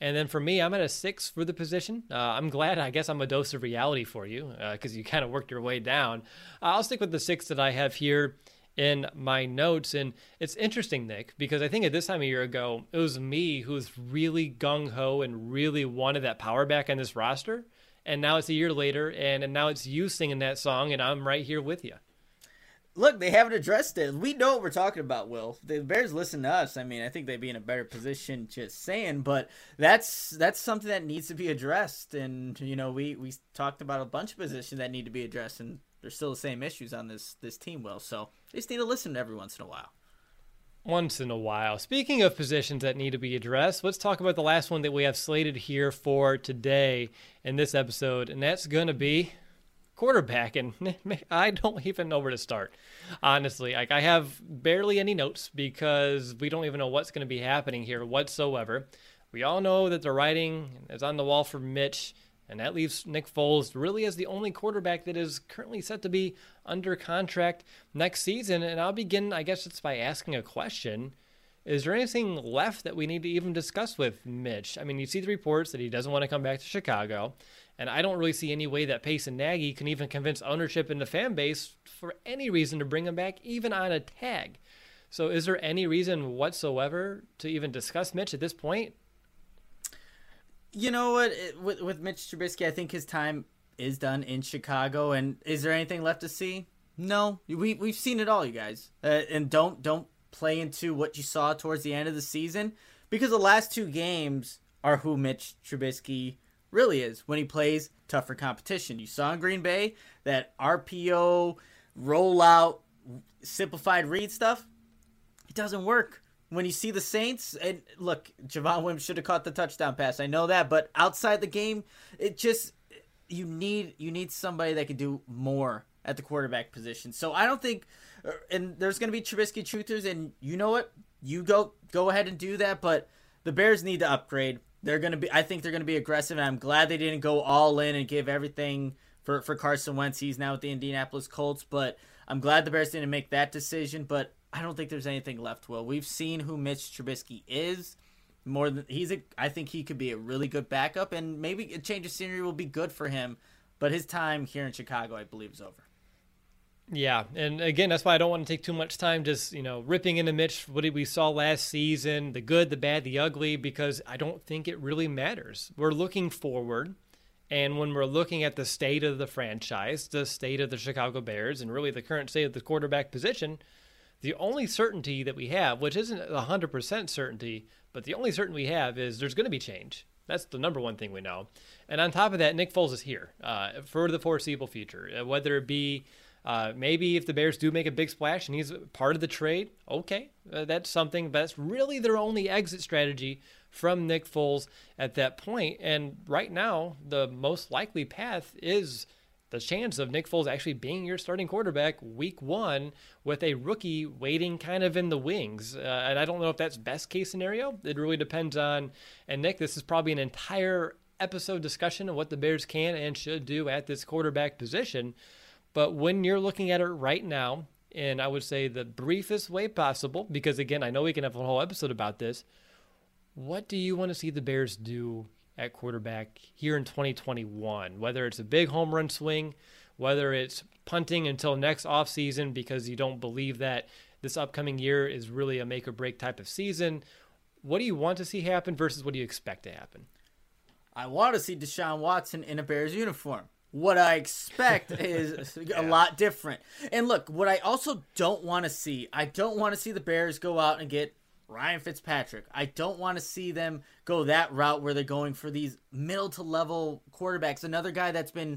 And then for me, I'm at a 6 for the position. I'm glad. I guess I'm a dose of reality for you because you kind of worked your way down. I'll stick with the 6 that I have here in my notes. And it's interesting, Nick, because I think at this time a year ago, it was me who was really gung-ho and really wanted that power back on this roster. And now it's a year later, and now it's you singing that song, and I'm right here with you. Look, they haven't addressed it. We know what we're talking about, Will. The Bears listen to us. I mean, I think they'd be in a better position just saying, but that's something that needs to be addressed. And, you know, we talked about a bunch of positions that need to be addressed, and there's still the same issues on this team, Will. So they just need to listen every once in a while. Once in a while. Speaking of positions that need to be addressed, let's talk about the last one that we have slated here for today in this episode, and that's going to be quarterback. And I don't even know where to start, honestly. Like, I have barely any notes because we don't even know what's going to be happening here whatsoever. We all know that the writing is on the wall for Mitch, and that leaves Nick Foles really as the only quarterback that is currently set to be under contract next season. And I'll begin, I guess, it's by asking a question. Is there anything left that we need to even discuss with Mitch? I mean, you see the reports that he doesn't want to come back to Chicago, and I don't really see any way that Pace and Nagy can even convince ownership and the fan base for any reason to bring him back, even on a tag. So is there any reason whatsoever to even discuss Mitch at this point? You know what? With Mitch Trubisky, I think his time is done in Chicago. And is there anything left to see? No. We've seen it all, you guys. And don't play into what you saw towards the end of the season, because the last 2 games are who Mitch Trubisky really is when he plays tougher competition. You saw in Green Bay that RPO, rollout, simplified read stuff. It doesn't work. When you see the Saints, and look, Javon Wims should have caught the touchdown pass. I know that, but outside the game, it just you need somebody that can do more at the quarterback position. So I don't think, and there's going to be Trubisky truthers, and you know what, you go ahead and do that. But the Bears need to upgrade. I think they're going to be aggressive, and I'm glad they didn't go all in and give everything for Carson Wentz. He's now with the Indianapolis Colts, but I'm glad the Bears didn't make that decision. But I don't think there's anything left, Will. We've seen who Mitch Trubisky is. I think he could be a really good backup, and maybe a change of scenery will be good for him. But his time here in Chicago, I believe, is over. Yeah, and again, that's why I don't want to take too much time just, ripping into Mitch, what we saw last season, the good, the bad, the ugly, because I don't think it really matters. We're looking forward, and when we're looking at the state of the franchise, the state of the Chicago Bears, and really the current state of the quarterback position, the only certainty that we have, which isn't 100% certainty, but the only certainty we have is there's going to be change. That's the number one thing we know. And on top of that, Nick Foles is here for the foreseeable future, whether it be maybe if the Bears do make a big splash and he's part of the trade, okay, that's something. But that's really their only exit strategy from Nick Foles at that point. And right now, the most likely path is the chance of Nick Foles actually being your starting quarterback week 1 with a rookie waiting kind of in the wings. And I don't know if that's best case scenario. It really depends on, and Nick, this is probably an entire episode discussion of what the Bears can and should do at this quarterback position. But when you're looking at it right now, and I would say the briefest way possible, because again, I know we can have a whole episode about this, what do you want to see the Bears do at quarterback here in 2021? Whether it's a big home run swing, whether it's punting until next offseason because you don't believe that this upcoming year is really a make or break type of season. What do you want to see happen versus what do you expect to happen? I want to see Deshaun Watson in a Bears uniform. What I expect is a lot different. And look, what I also don't want to see, I don't want to see the Bears go out and get Ryan Fitzpatrick. I don't want to see them go that route where they're going for these middle to level quarterbacks. Another guy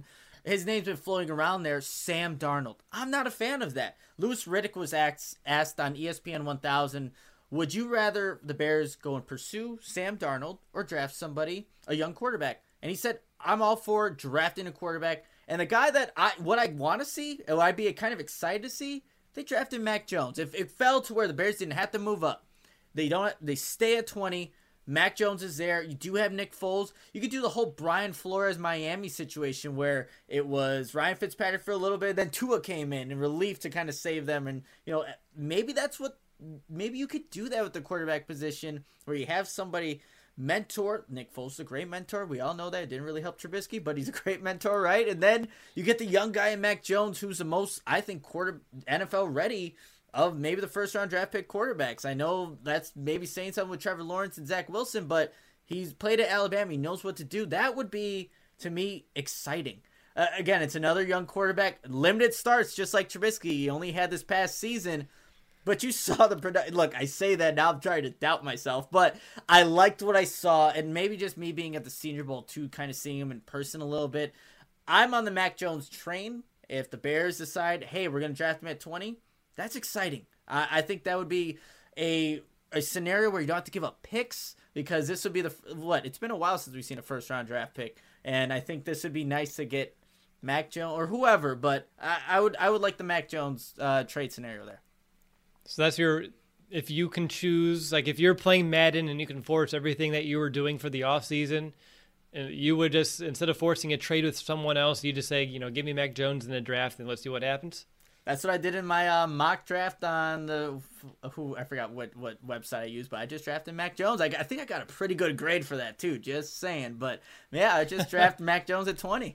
his name's been floating around there, Sam Darnold. I'm not a fan of that. Louis Riddick was asked on ESPN 1000, would you rather the Bears go and pursue Sam Darnold or draft somebody, a young quarterback? And he said, I'm all for drafting a quarterback. And the guy that I want to see, or I'd be kind of excited to see, they drafted Mac Jones. If it fell to where the Bears didn't have to move up, they stay at 20. Mac Jones is there. You do have Nick Foles. You could do the whole Brian Flores Miami situation where it was Ryan Fitzpatrick for a little bit, then Tua came in relief to kind of save them. And maybe you could do that with the quarterback position where you have somebody mentor. Nick Foles is a great mentor. We all know that. It didn't really help Trubisky, but he's a great mentor, right? And then you get the young guy in Mac Jones, who's the most, I think, NFL ready of maybe the first-round draft pick quarterbacks. I know that's maybe saying something with Trevor Lawrence and Zach Wilson, but he's played at Alabama. He knows what to do. That would be, to me, exciting. Again, it's another young quarterback. Limited starts, just like Trubisky. He only had this past season. But you saw the production. Look, I say that now. I'm trying to doubt myself. But I liked what I saw. And maybe just me being at the Senior Bowl, too, kind of seeing him in person a little bit. I'm on the Mac Jones train. If the Bears decide, hey, we're going to draft him at 20, that's exciting. I think that would be a scenario where you don't have to give up picks. Because this would be it's been a while since we've seen a first-round draft pick. And I think this would be nice to get Mac Jones or whoever, but I would like the Mac Jones trade scenario there. So that's if you can choose, like if you're playing Madden and you can force everything that you were doing for the offseason, you would just, instead of forcing a trade with someone else, you just say, give me Mac Jones in the draft and let's see what happens. That's what I did in my mock draft on I forgot what website I used, but I just drafted Mac Jones. I think I got a pretty good grade for that too, just saying. But yeah, I just drafted Mac Jones at 20.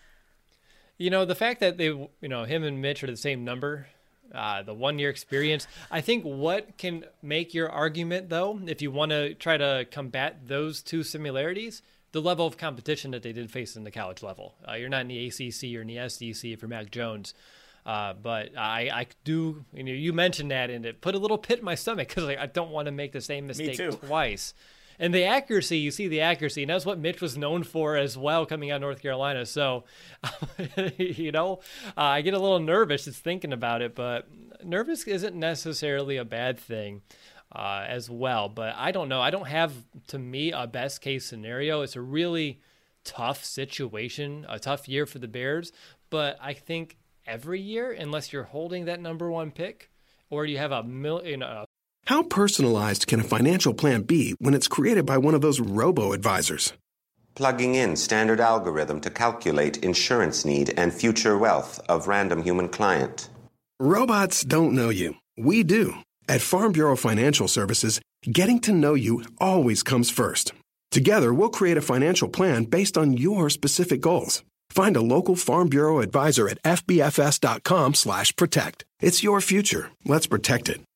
The fact that they, him and Mitch are the same number, the 1 year experience, I think what can make your argument, though, if you want to try to combat those two similarities, the level of competition that they did face in the college level. You're not in the ACC or in the SEC for Mac Jones. But I do, you mentioned that, and it put a little pit in my stomach because I don't want to make the same mistake twice. And the accuracy, you see the accuracy, and that's what Mitch was known for as well coming out of North Carolina. So, I get a little nervous just thinking about it, but nervous isn't necessarily a bad thing as well. But I don't know. I don't have, to me, a best case scenario. It's a really tough situation, a tough year for the Bears. But I think every year, unless you're holding that number one pick or you have How personalized can a financial plan be when it's created by one of those robo-advisors? Plugging in standard algorithm to calculate insurance need and future wealth of random human client. Robots don't know you. We do. At Farm Bureau Financial Services, getting to know you always comes first. Together, we'll create a financial plan based on your specific goals. Find a local Farm Bureau advisor at fbfs.com/protect. It's your future. Let's protect it.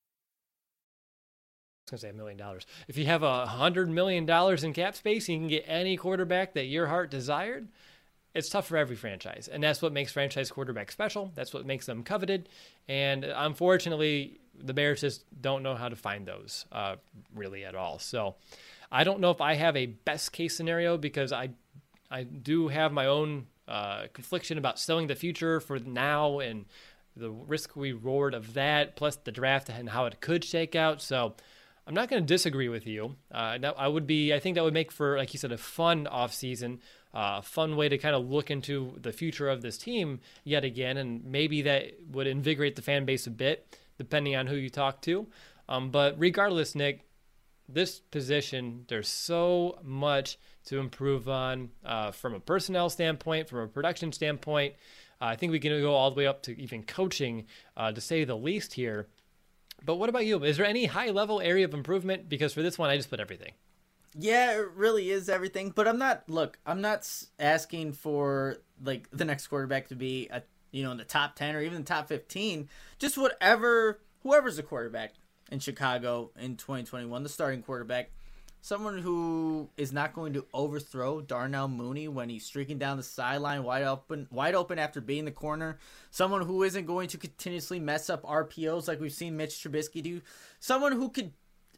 I was going to say $1 million. If you have $100 million in cap space, you can get any quarterback that your heart desired. It's tough for every franchise, and that's what makes franchise quarterbacks special. That's what makes them coveted, and unfortunately, the Bears just don't know how to find those really at all. So I don't know if I have a best case scenario because I do have my own confliction about selling the future for now and the risk reward of that, plus the draft and how it could shake out. So I'm not going to disagree with you. I think that would make for, like you said, a fun offseason, a fun way to kind of look into the future of this team yet again, and maybe that would invigorate the fan base a bit, depending on who you talk to. But regardless, Nick, this position, there's so much to improve on from a personnel standpoint, from a production standpoint. I think we can go all the way up to even coaching, to say the least here. But what about you? Is there any high-level area of improvement? Because for this one, I just put everything. Yeah, it really is everything. But I'm not asking for like the next quarterback to be in the top 10 or even the top 15. Just whoever's the quarterback in Chicago in 2021, the starting quarterback, someone who is not going to overthrow Darnell Mooney when he's streaking down the sideline wide open after being the corner. Someone who isn't going to continuously mess up RPOs like we've seen Mitch Trubisky do. Someone who could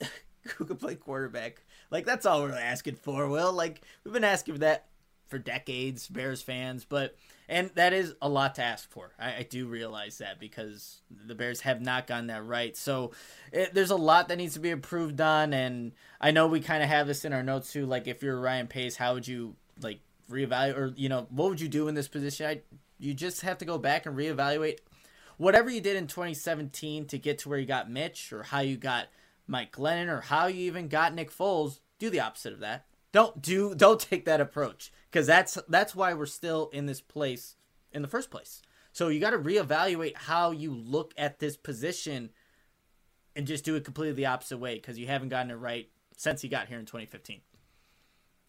play quarterback. Like, that's all we're asking for, Will. Like, we've been asking for that for decades, Bears fans, and that is a lot to ask for. I do realize that because the Bears have not gotten that right. So there's a lot that needs to be improved on, and I know we kind of have this in our notes too. Like, if you're Ryan Pace, how would you like reevaluate, or what would you do in this position? You just have to go back and reevaluate whatever you did in 2017 to get to where you got Mitch, or how you got Mike Glennon, or how you even got Nick Foles. Do the opposite of that. Don't take that approach, because that's why we're still in this place in the first place. So you got to reevaluate how you look at this position and just do it completely the opposite way, because you haven't gotten it right since you got here in 2015.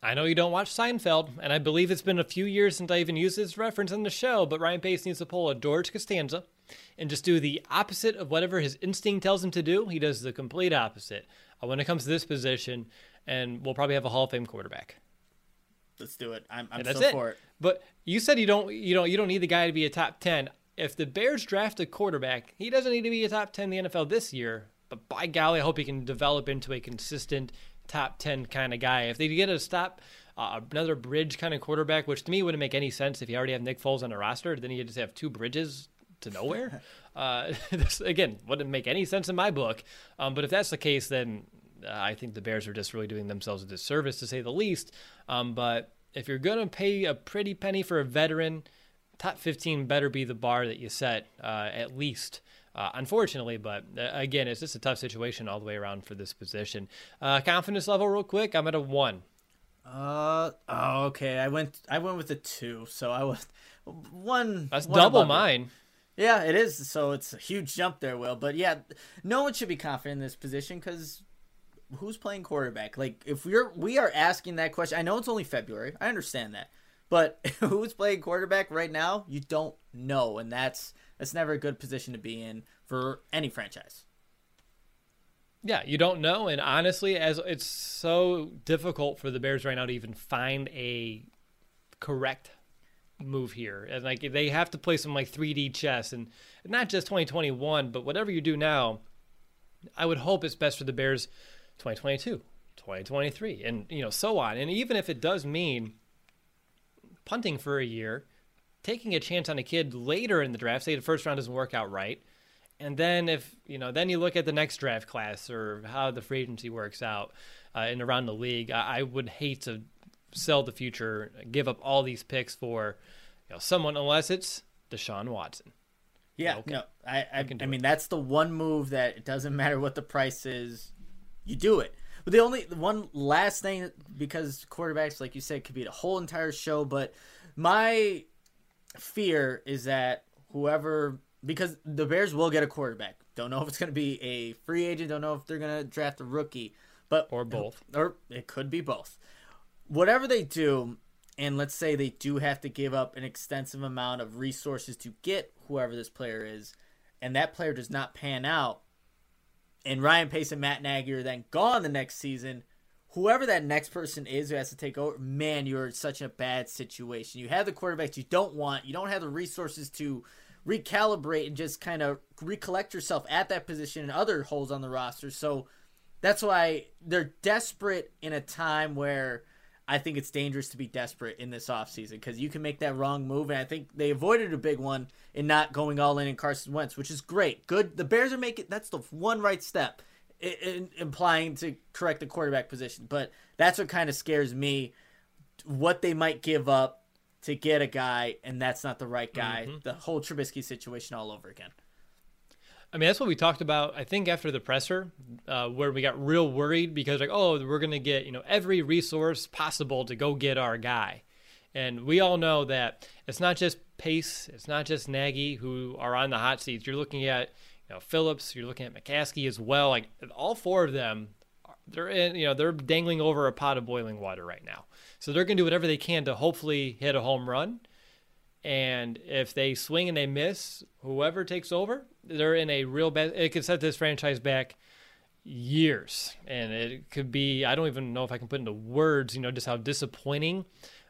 I know you don't watch Seinfeld, and I believe it's been a few years since I even used this reference in the show, but Ryan Pace needs to pull a George Costanza and just do the opposite of whatever his instinct tells him to do. He does the complete opposite when it comes to this position, and we'll probably have a Hall of Fame quarterback. Let's do it. I'm that's so it. for it. But you said you don't need the guy to be a top 10. If the Bears draft a quarterback, he doesn't need to be a top 10 in the NFL this year, but by golly, I hope he can develop into a consistent top 10 kind of guy. If they get another bridge kind of quarterback, which to me wouldn't make any sense if you already have Nick Foles on the roster, then you just have two bridges to nowhere. This, again, wouldn't make any sense in my book. But if that's the case, then I think the Bears are just really doing themselves a disservice, to say the least. But if you're going to pay a pretty penny for a veteran, top 15 better be the bar that you set, at least. Unfortunately, but again, it's just a tough situation all the way around for this position. Confidence level real quick, I'm at a 1. Okay. I went with a 2, so I was 1. That's one double above mine. It. Yeah, it is. So it's a huge jump there, Will. But yeah, no one should be confident in this position because who's playing quarterback? Like, if we are asking that question, I know it's only February. I understand that. But who's playing quarterback right now? You don't know, and that's never a good position to be in for any franchise. Yeah, you don't know, and honestly, as it's so difficult for the Bears right now to even find a correct move here, and like they have to play some like 3D chess, and not just 2021, but whatever you do now, I would hope it's best for the Bears 2022, 2023, and so on. And even if it does mean punting for a year, taking a chance on a kid later in the draft, say the first round doesn't work out right, and then if then you look at the next draft class or how the free agency works out and around the league, I would hate to sell the future, give up all these picks for someone, unless it's Deshaun Watson. Yeah, okay. No, I mean that's the one move that it doesn't matter what the price is, you do it. But the one last thing, because quarterbacks, like you said, could be a whole entire show, but my fear is that because the Bears will get a quarterback. Don't know if it's going to be a free agent. Don't know if they're going to draft a rookie, or both. Or it could be both. Whatever they do, and let's say they do have to give up an extensive amount of resources to get whoever this player is, and that player does not pan out, and Ryan Pace and Matt Nagy are then gone the next season, whoever that next person is who has to take over, man, you're in such a bad situation. You have the quarterbacks you don't want. You don't have the resources to recalibrate and just kind of recollect yourself at that position and other holes on the roster. So that's why they're desperate in a time where I think it's dangerous to be desperate in this offseason, because you can make that wrong move, and I think they avoided a big one in not going all in Carson Wentz, which is great. Good. The Bears are making – that's the one right step, implying to correct the quarterback position. But that's what kind of scares me, what they might give up to get a guy, and that's not the right guy. Mm-hmm. The whole Trubisky situation all over again. I mean, that's what we talked about, I think, after the presser, where we got real worried because, we're going to get, every resource possible to go get our guy. And we all know that it's not just Pace, it's not just Nagy who are on the hot seats. You're looking at, Phillips, you're looking at McCaskey as well. Like, all four of them, they're dangling over a pot of boiling water right now. So they're going to do whatever they can to hopefully hit a home run. And if they swing and they miss, whoever takes over, they're in a real bad – it could set this franchise back years. And it could be – I don't even know if I can put into words, just how disappointing,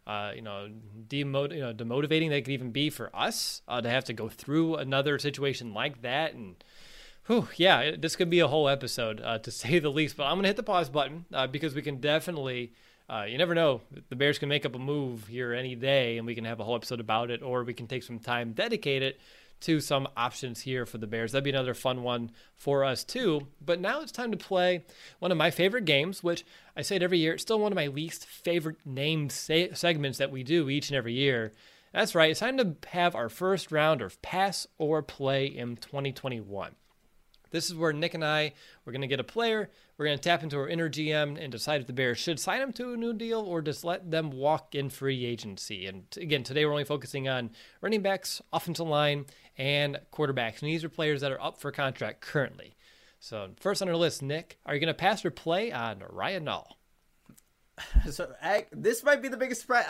demotivating that could even be for us to have to go through another situation like that. And, this could be a whole episode, to say the least. But I'm going to hit the pause button because we can definitely – you never know. The Bears can make up a move here any day, and we can have a whole episode about it, or we can take some time dedicated to some options here for the Bears. That'd be another fun one for us, too. But now it's time to play one of my favorite games, which I say it every year. It's still one of my least favorite named segments that we do each and every year. That's right. It's time to have our first round of Pass or Play in 2021. This is where Nick and I, we're going to get a player, we're going to tap into our inner GM and decide if the Bears should sign him to a new deal or just let them walk in free agency. And again, today we're only focusing on running backs, offensive line, and quarterbacks. And these are players that are up for contract currently. So first on our list, Nick, are you going to pass or play on Ryan Nall? This might be the biggest surprise.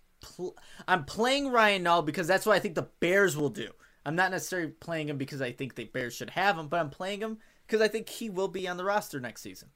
I'm playing Ryan Nall because that's what I think the Bears will do. I'm not necessarily playing him because I think the Bears should have him, but I'm playing him because I think he will be on the roster next season.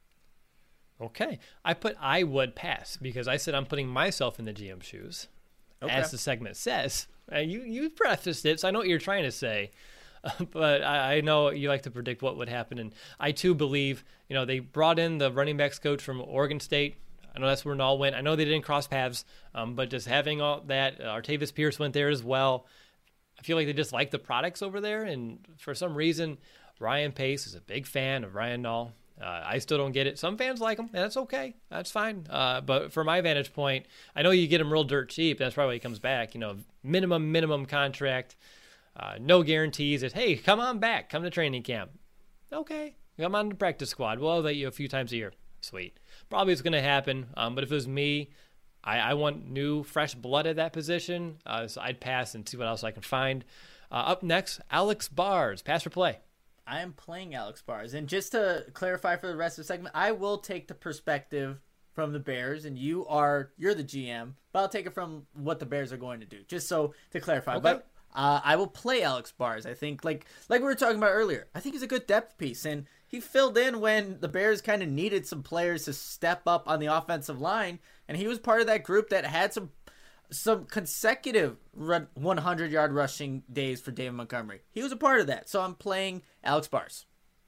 Okay. I would pass because I said I'm putting myself in the GM shoes, as the segment says. You prefaced it, so I know what you're trying to say. But I know you like to predict what would happen, and I too believe, they brought in the running backs coach from Oregon State. I know that's where Nall went. I know they didn't cross paths, but just having all that, Artavis Pierce went there as well. I feel like they just like the products over there, and for some reason, Ryan Pace is a big fan of Ryan Nall. I still don't get it. Some fans like him, and that's okay. That's fine. But from my vantage point, I know you get him real dirt cheap. That's probably why he comes back. Minimum contract. No guarantees. It's, hey, come on back. Come to training camp. Okay. Come on to practice squad. We'll elevate you a few times a year. Sweet. Probably it's going to happen. But if it was me, I want new, fresh blood at that position. So I'd pass and see what else I can find. Up next, Alex Bars. Pass or play? I am playing Alex Bars. And just to clarify for the rest of the segment, I will take the perspective from the Bears, and you're the GM, but I'll take it from what the Bears are going to do, just so to clarify. Okay. But I will play Alex Bars. I think, like we were talking about earlier, I think he's a good depth piece, and he filled in when the Bears kind of needed some players to step up on the offensive line, and he was part of that group that had some consecutive 100-yard rushing days for David Montgomery. He was a part of that, so I'm playing Alex Bars.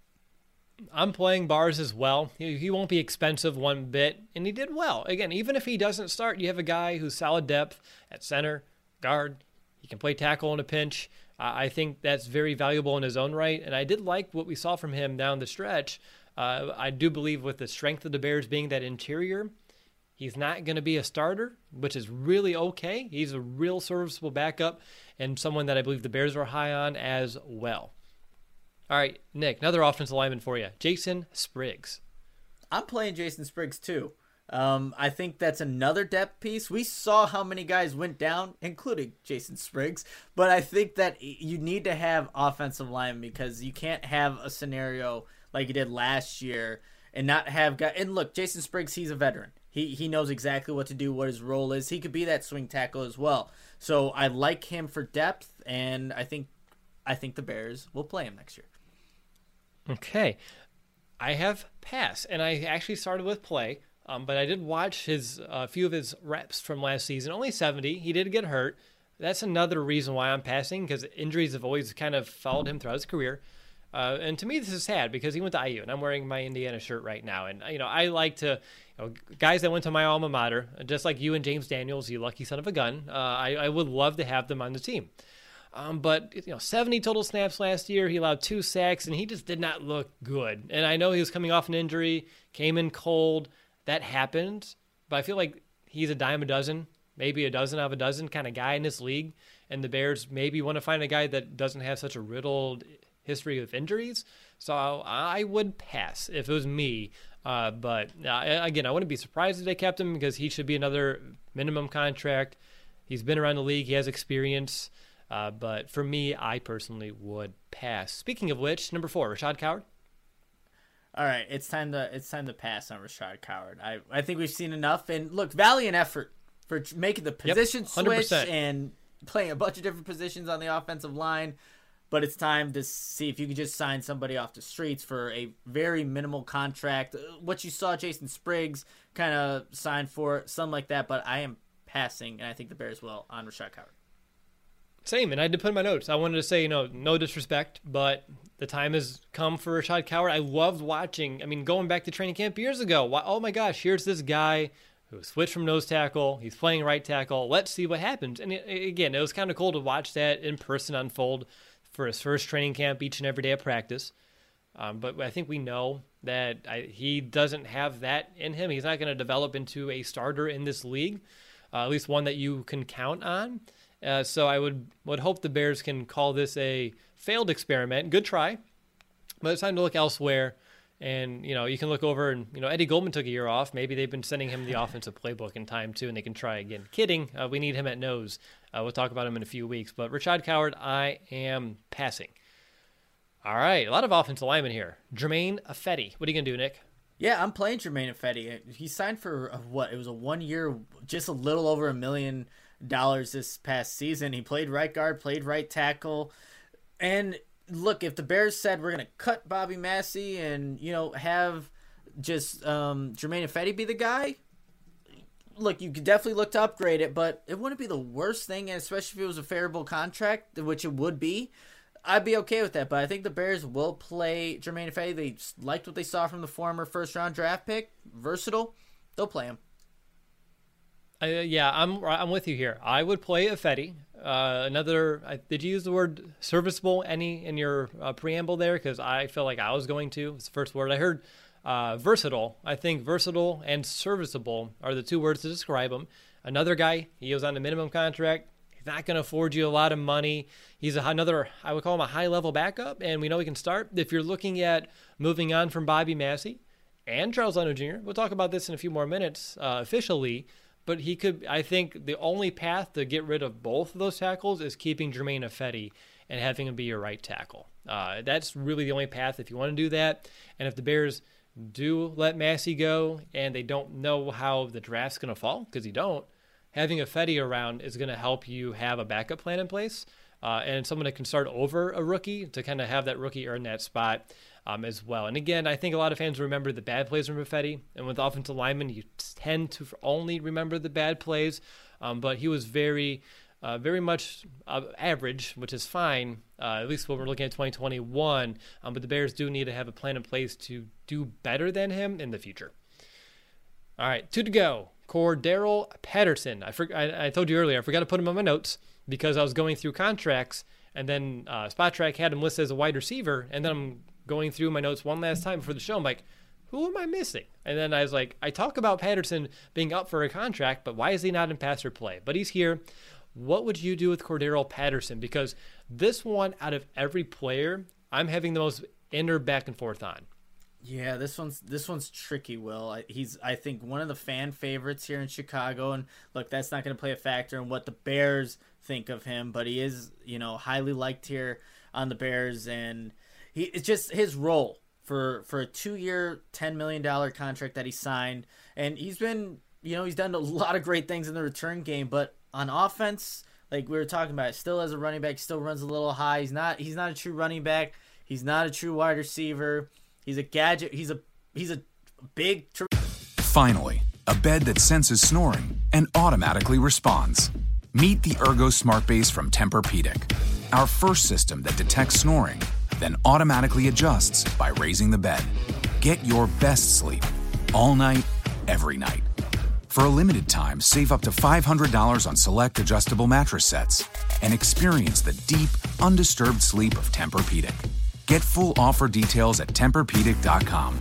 I'm playing Bars as well. He won't be expensive one bit, and he did well. Again, even if he doesn't start, you have a guy who's solid depth at center, guard. He can play tackle in a pinch. I think that's very valuable in his own right, and I did like what we saw from him down the stretch. I do believe with the strength of the Bears being that interior, he's not going to be a starter, which is really okay. He's a real serviceable backup and someone that I believe the Bears are high on as well. All right, Nick, another offensive lineman for you, Jason Spriggs. I'm playing Jason Spriggs too. I think that's another depth piece. We saw how many guys went down, including Jason Spriggs, but I think that you need to have offensive linemen because you can't have a scenario like you did last year and not have guys. And look, Jason Spriggs, he's a veteran. He knows exactly what to do, what his role is. He could be that swing tackle as well. So I like him for depth, and I think the Bears will play him next year. Okay. I have pass, and I actually started with play. But I did watch a few of his reps from last season. Only 70. He did get hurt. That's another reason why I'm passing, because injuries have always kind of followed him throughout his career. And to me, this is sad because he went to IU, and I'm wearing my Indiana shirt right now. And I like to, guys that went to my alma mater, just like you and James Daniels, you lucky son of a gun. I would love to have them on the team. But 70 total snaps last year. He allowed 2 sacks, and he just did not look good. And I know he was coming off an injury, came in cold. That happened, but I feel like he's a dime a dozen, maybe a dozen out of a dozen kind of guy in this league, and the Bears maybe want to find a guy that doesn't have such a riddled history of injuries. So I would pass if it was me. But again, I wouldn't be surprised if they kept him because he should be another minimum contract. He's been around the league. He has experience. But for me, I personally would pass. Speaking of which, number 4, Rashad Coward. All right, it's time to pass on Rashad Coward. I think we've seen enough. And look, valiant effort for making the position switch and playing a bunch of different positions on the offensive line. But it's time to see if you can just sign somebody off the streets for a very minimal contract. What you saw Jason Spriggs kind of sign for, something like that. But I am passing, and I think the Bears will on Rashad Coward. Same, and I did put in my notes. I wanted to say, no disrespect, but the time has come for Rashad Coward. I loved watching, going back to training camp years ago. Oh my gosh, here's this guy who switched from nose tackle. He's playing right tackle. Let's see what happens. And again, it was kind of cool to watch that in person unfold for his first training camp each and every day of practice. But I think we know that he doesn't have that in him. He's not going to develop into a starter in this league, at least one that you can count on. So I would hope the Bears can call this a failed experiment. Good try, but it's time to look elsewhere. And, you can look over and, Eddie Goldman took a year off. Maybe they've been sending him the offensive playbook in time too, and they can try again. Kidding. We need him at nose. We'll talk about him in a few weeks. But Rashad Coward, I am passing. All right. A lot of offensive linemen here. Jermaine Ifedi. What are you going to do, Nick? Yeah, I'm playing Jermaine Ifedi. He signed for what? It was a 1 year, just a little over $1 million this past season. He played right guard, played right tackle. And look, if the Bears said we're going to cut Bobby Massey and, have just Jermaine Ifedi be the guy, look, you could definitely look to upgrade it, but it wouldn't be the worst thing, especially if it was a favorable contract, which it would be. I'd be okay with that, but I think the Bears will play Jermaine Ifedi. They liked what they saw from the former first-round draft pick. Versatile. They'll play him. Yeah, I'm with you here. I would play Ifedi. Did you use the word serviceable in your preamble there? Because I feel like I was going to. It's the first word I heard. Versatile. I think versatile and serviceable are the two words to describe him. Another guy, he was on a minimum contract. He's not going to afford you a lot of money. He's another, I would call him a high-level backup, and we know he can start. If you're looking at moving on from Bobby Massey and Charles Leno Jr., we'll talk about this in a few more minutes officially, but he could, I think the only path to get rid of both of those tackles is keeping Jermaine Ifedi and having him be your right tackle. That's really the only path if you want to do that. And if the Bears do let Massey go and they don't know how the draft's going to fall, because you don't, having Ifedi around is going to help you have a backup plan in place and someone that can start over a rookie to kind of have that rookie earn that spot as well. And again, I think a lot of fans remember the bad plays from Ifedi, and with offensive linemen, you tend to only remember the bad plays, but he was very much average, which is fine, at least when we're looking at 2021. But the Bears do need to have a plan in place to do better than him in the future. All right, 2 to go. Cordarrelle Patterson. I told you earlier, I forgot to put him on my notes because I was going through contracts, and then Spot Track had him listed as a wide receiver, and then I'm going through my notes one last time before the show. I'm like, who am I missing? And then I was like, I talk about Patterson being up for a contract, but why is he not in pass or play? But he's here. What would you do with Cordarrelle Patterson? Because this one, out of every player, I'm having the most inner back and forth on. Yeah, this one's tricky, Will. He's, I think, one of the fan favorites here in Chicago, and look, that's not going to play a factor in what the Bears think of him, but he is, highly liked here on the Bears, and it's just his role for a 2-year, $10 million contract that he signed, and he's been, he's done a lot of great things in the return game, but on offense, like we were talking about, still as a running back, still runs a little high. He's not a true running back. He's not a true wide receiver. He's a gadget. He's a big. Finally, a bed that senses snoring and automatically responds. Meet the Ergo Smart Base from Tempur-Pedic, our first system that detects snoring, then automatically adjusts by raising the bed. Get your best sleep all night, every night. For a limited time, save up to $500 on select adjustable mattress sets and experience the deep, undisturbed sleep of Tempur-Pedic. Get full offer details at TempurPedic.com.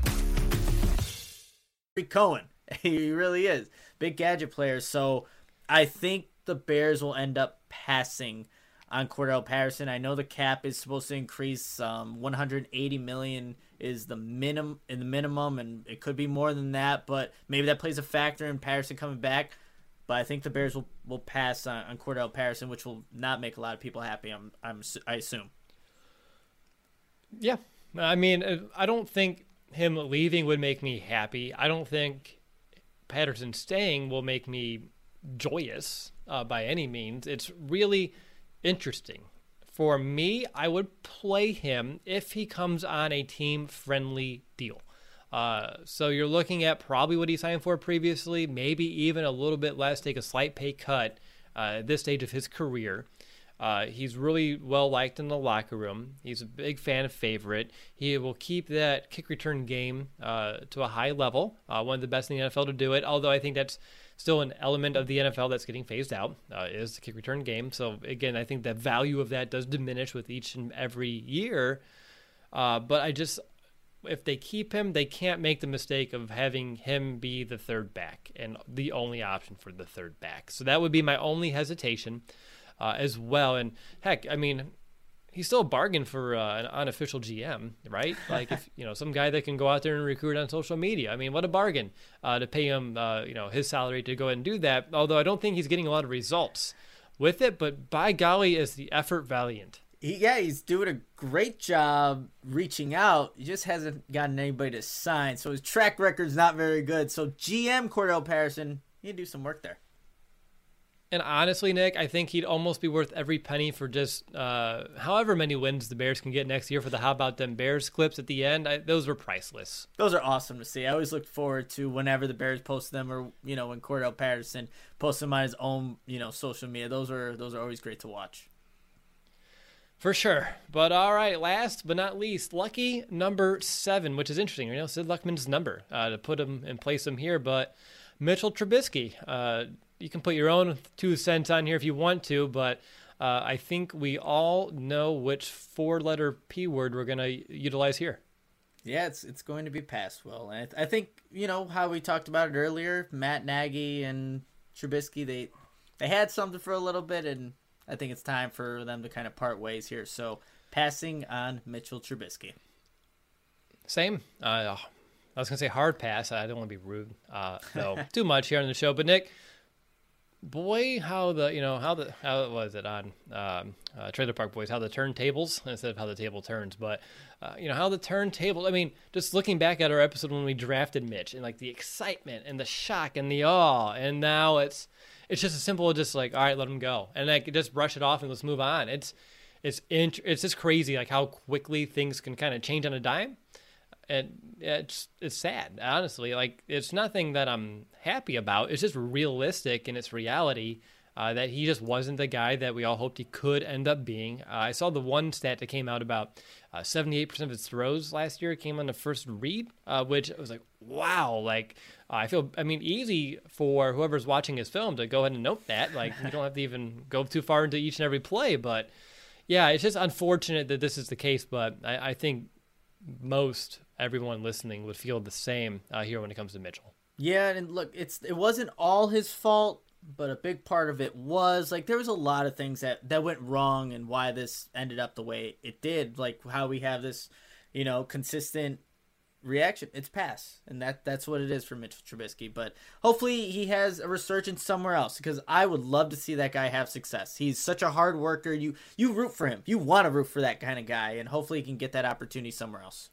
Cohen, he really is. Big gadget player. So I think the Bears will end up passing on Cordarrelle Patterson. I know the cap is supposed to increase. $180 million is the minimum, and it could be more than that, but maybe that plays a factor in Patterson coming back. But I think the Bears will pass on Cordarrelle Patterson, which will not make a lot of people happy, I assume. Yeah. I mean, I don't think him leaving would make me happy. I don't think Patterson staying will make me joyous by any means. It's really interesting. For me, I would play him if he comes on a team-friendly deal. So you're looking at probably what he signed for previously, maybe even a little bit less, take a slight pay cut at this stage of his career. He's really well-liked in the locker room. He's a big fan favorite. He will keep that kick return game to a high level, one of the best in the NFL to do it, although I think that's still an element of the NFL that's getting phased out, is the kick return game. So, again, I think the value of that does diminish with each and every year. But if they keep him, they can't make the mistake of having him be the third back and the only option for the third back. So that would be my only hesitation as well. And, heck, I mean, he's still a bargain for an unofficial GM, right? Like, if some guy that can go out there and recruit on social media. I mean, what a bargain to pay him, his salary to go ahead and do that. Although I don't think he's getting a lot of results with it, but by golly, is the effort valiant. He's doing a great job reaching out. He just hasn't gotten anybody to sign, so his track record's not very good. So GM Cordell Patterson, you do some work there. And honestly, Nick, I think he'd almost be worth every penny for just however many wins the Bears can get next year for the How About Them Bears clips at the end. Those were priceless. Those are awesome to see. I always look forward to whenever the Bears post them, or when Cordell Patterson posts them on his own social media. Those are always great to watch. For sure. But all right, last but not least, lucky number 7, which is interesting. Sid Luckman's number to put him and place him here, but Mitchell Trubisky. You can put your own 2 cents on here if you want to, but I think we all know which 4-letter P word we're going to utilize here. Yeah, it's going to be pass, Will. And I think, how we talked about it earlier, Matt Nagy and Trubisky, they had something for a little bit, and I think it's time for them to kind of part ways here. So, passing on Mitchell Trubisky. Same. I was going to say hard pass. I don't want to be rude. No, too much here on the show. But, Nick, boy, how was it on Trailer Park Boys, how the turntables, instead of how the table turns, but, how the turntable, I mean, just looking back at our episode when we drafted Mitch and, like, the excitement and the shock and the awe, and now it's just as simple as just like, all right, let him go. And like, just brush it off and let's move on. It's just crazy, like how quickly things can kind of change on a dime. And it's sad, honestly. Like, it's nothing that I'm happy about. It's just realistic in its reality that he just wasn't the guy that we all hoped he could end up being. I saw the one stat that came out about 78% of his throws last year came on the first read, which I was like, wow. Like, easy for whoever's watching his film to go ahead and note that. Like, you don't have to even go too far into each and every play. But, yeah, it's just unfortunate that this is the case. But I think most everyone listening would feel the same here when it comes to Mitchell. Yeah, and look, it wasn't all his fault, but a big part of it was, like, there was a lot of things that went wrong and why this ended up the way it did. Like, how we have this, consistent reaction. It's pass, and that's what it is for Mitchell Trubisky. But hopefully he has a resurgence somewhere else, because I would love to see that guy have success. He's such a hard worker. You root for him. You want to root for that kind of guy, and hopefully he can get that opportunity somewhere else.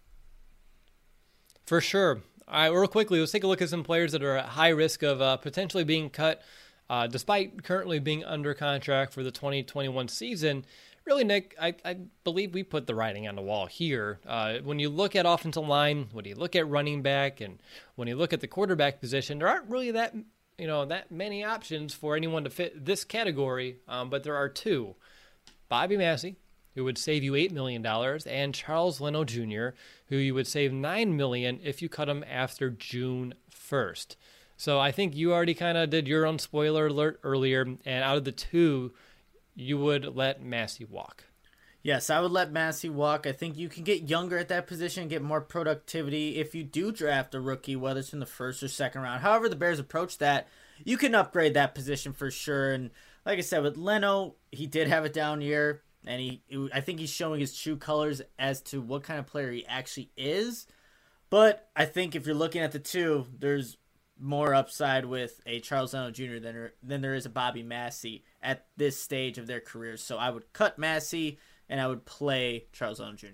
For sure. All right, real quickly, let's take a look at some players that are at high risk of potentially being cut despite currently being under contract for the 2021 season. Really, Nick, I believe we put the writing on the wall here. When you look at offensive line, when you look at running back, and when you look at the quarterback position, there aren't really that many options for anyone to fit this category, but there are 2. Bobby Massey, who would save you $8 million, and Charles Leno Jr., who you would save $9 million if you cut him after June 1st. So I think you already kind of did your own spoiler alert earlier, and out of the 2, you would let Massey walk. Yes, I would let Massey walk. I think you can get younger at that position, get more productivity. If you do draft a rookie, whether it's in the first or second round, however the Bears approach that, you can upgrade that position for sure. And like I said, with Leno, he did have a down year, and I think he's showing his true colors as to what kind of player he actually is. But I think if you're looking at the 2, there's more upside with a Charles Leno Jr. than there is a Bobby Massey at this stage of their careers. So I would cut Massey, and I would play Charles Leno Jr.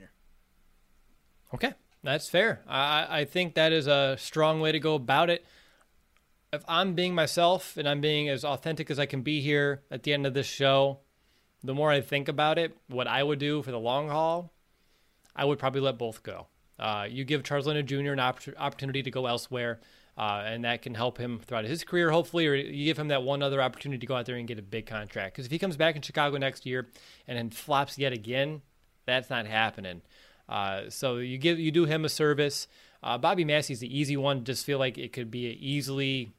Okay, that's fair. I think that is a strong way to go about it. If I'm being myself and I'm being as authentic as I can be here at the end of this show, the more I think about it, what I would do for the long haul, I would probably let both go. You give Charles Leno Jr. an opportunity to go elsewhere, and that can help him throughout his career, hopefully, or you give him that one other opportunity to go out there and get a big contract. Because if he comes back in Chicago next year and then flops yet again, that's not happening. So you do him a service. Bobby Massey's the easy one. Just feel like it could be easily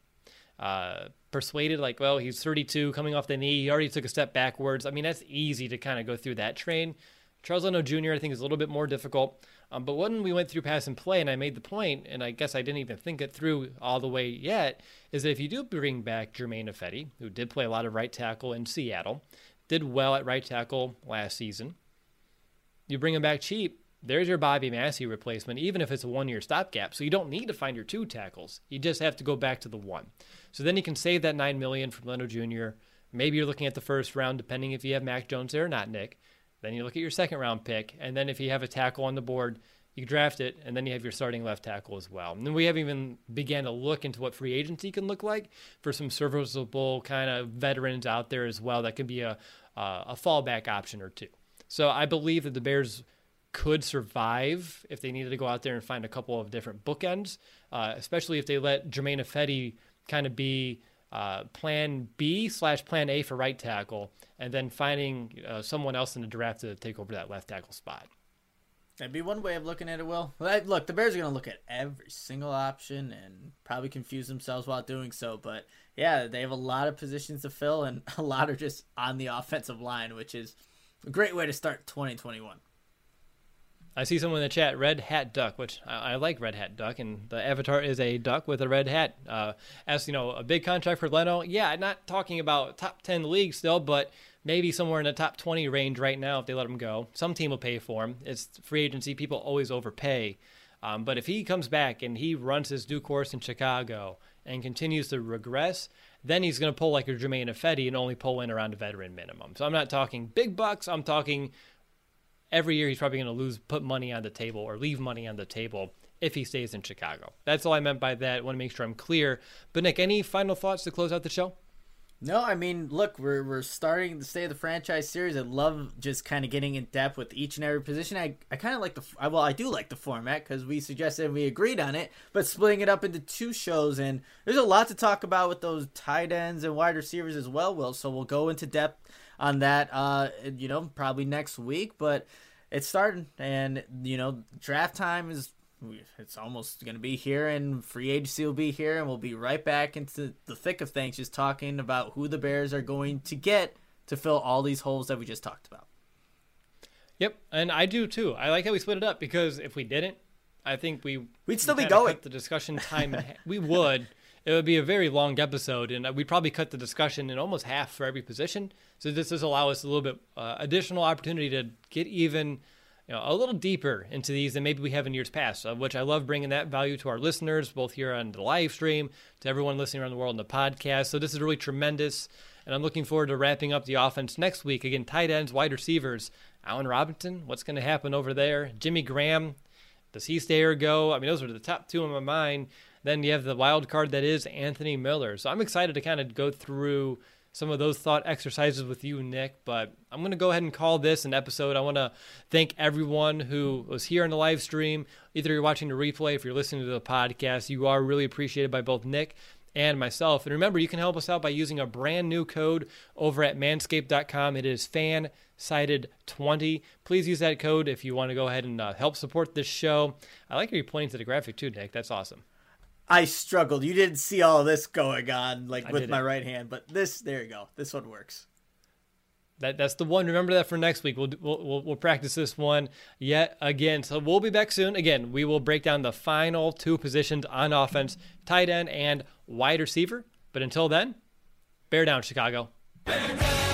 persuaded, like, well, he's 32, coming off the knee. He already took a step backwards. I mean, that's easy to kind of go through that train. Charles Leno Jr., I think, is a little bit more difficult. But when we went through pass and play, and I made the point, and I guess I didn't even think it through all the way yet, is that if you do bring back Germain Ifedi, who did play a lot of right tackle in Seattle, did well at right tackle last season, you bring him back cheap, there's your Bobby Massey replacement, even if it's a one-year stopgap. So you don't need to find your 2 tackles. You just have to go back to the 1. So then you can save that $9 million from Leno Jr. Maybe you're looking at the first round, depending if you have Mac Jones there or not, Nick. Then you look at your second round pick. And then if you have a tackle on the board, you draft it, and then you have your starting left tackle as well. And then we haven't even began to look into what free agency can look like for some serviceable kind of veterans out there as well. That could be a fallback option or two. So I believe that the Bears could survive if they needed to go out there and find a couple of different bookends, especially if they let Germain Ifedi kind of be plan B/plan A for right tackle, and then finding someone else in the draft to take over that left tackle spot. That'd be one way of looking at it, Will. Look, the Bears are going to look at every single option and probably confuse themselves while doing so. But, yeah, they have a lot of positions to fill, and a lot are just on the offensive line, which is a great way to start 2021. I see someone in the chat, Red Hat Duck, which I like Red Hat Duck, and the avatar is a duck with a red hat. As you know, a big contract for Leno. Yeah, I'm not talking about top 10 league still, but maybe somewhere in the top 20 range right now if they let him go. Some team will pay for him. It's free agency. People always overpay. But if he comes back and he runs his due course in Chicago and continues to regress, then he's going to pull like a Germain Ifedi and only pull in around a veteran minimum. So I'm not talking big bucks. I'm talking every year he's probably going to put money on the table or leave money on the table if he stays in Chicago. That's all I meant by that. I want to make sure I'm clear. But Nick, any final thoughts to close out the show? No, I mean, look, we're starting the State of the Franchise series. I love just kind of getting in depth with each and every position. I kind of like I do like the format because we suggested and we agreed on it, but splitting it up into two shows, and there's a lot to talk about with those tight ends and wide receivers as well, Will. So we'll go into depth on that, probably next week, but it's starting, and, draft time it's almost going to be here, and free agency will be here, and we'll be right back into the thick of things, just talking about who the Bears are going to get to fill all these holes that we just talked about. Yep, and I do too. I like how we split it up, because if we didn't, I think we'd still be going. Cut the discussion time. We would. It would be a very long episode, and we'd probably cut the discussion in almost half for every position. So this does allow us a little bit additional opportunity to get even a little deeper into these than maybe we have in years past, which I love bringing that value to our listeners, both here on the live stream, to everyone listening around the world on the podcast. So this is really tremendous, and I'm looking forward to wrapping up the offense next week. Again, tight ends, wide receivers, Allen Robinson, what's going to happen over there? Jimmy Graham, does he stay or go? I mean, those are the top two in my mind. Then you have the wild card that is Anthony Miller. So I'm excited to kind of go through some of those thought exercises with you, Nick, but I'm going to go ahead and call this an episode. I want to thank everyone who was here on the live stream. Either you're watching the replay, if you're listening to the podcast, you are really appreciated by both Nick and myself. And remember, you can help us out by using a brand new code over at manscaped.com. It is FANSIDED20. Please use that code if you want to go ahead and help support this show. I like how you're pointing to the graphic too, Nick. That's awesome. I struggled. You didn't see all this going on with my right hand, but there you go. This one works. That's the one. Remember that for next week. We'll practice this one yet again. So we'll be back soon. Again, we will break down the final two positions on offense, tight end and wide receiver. But until then, bear down, Chicago. Bear down.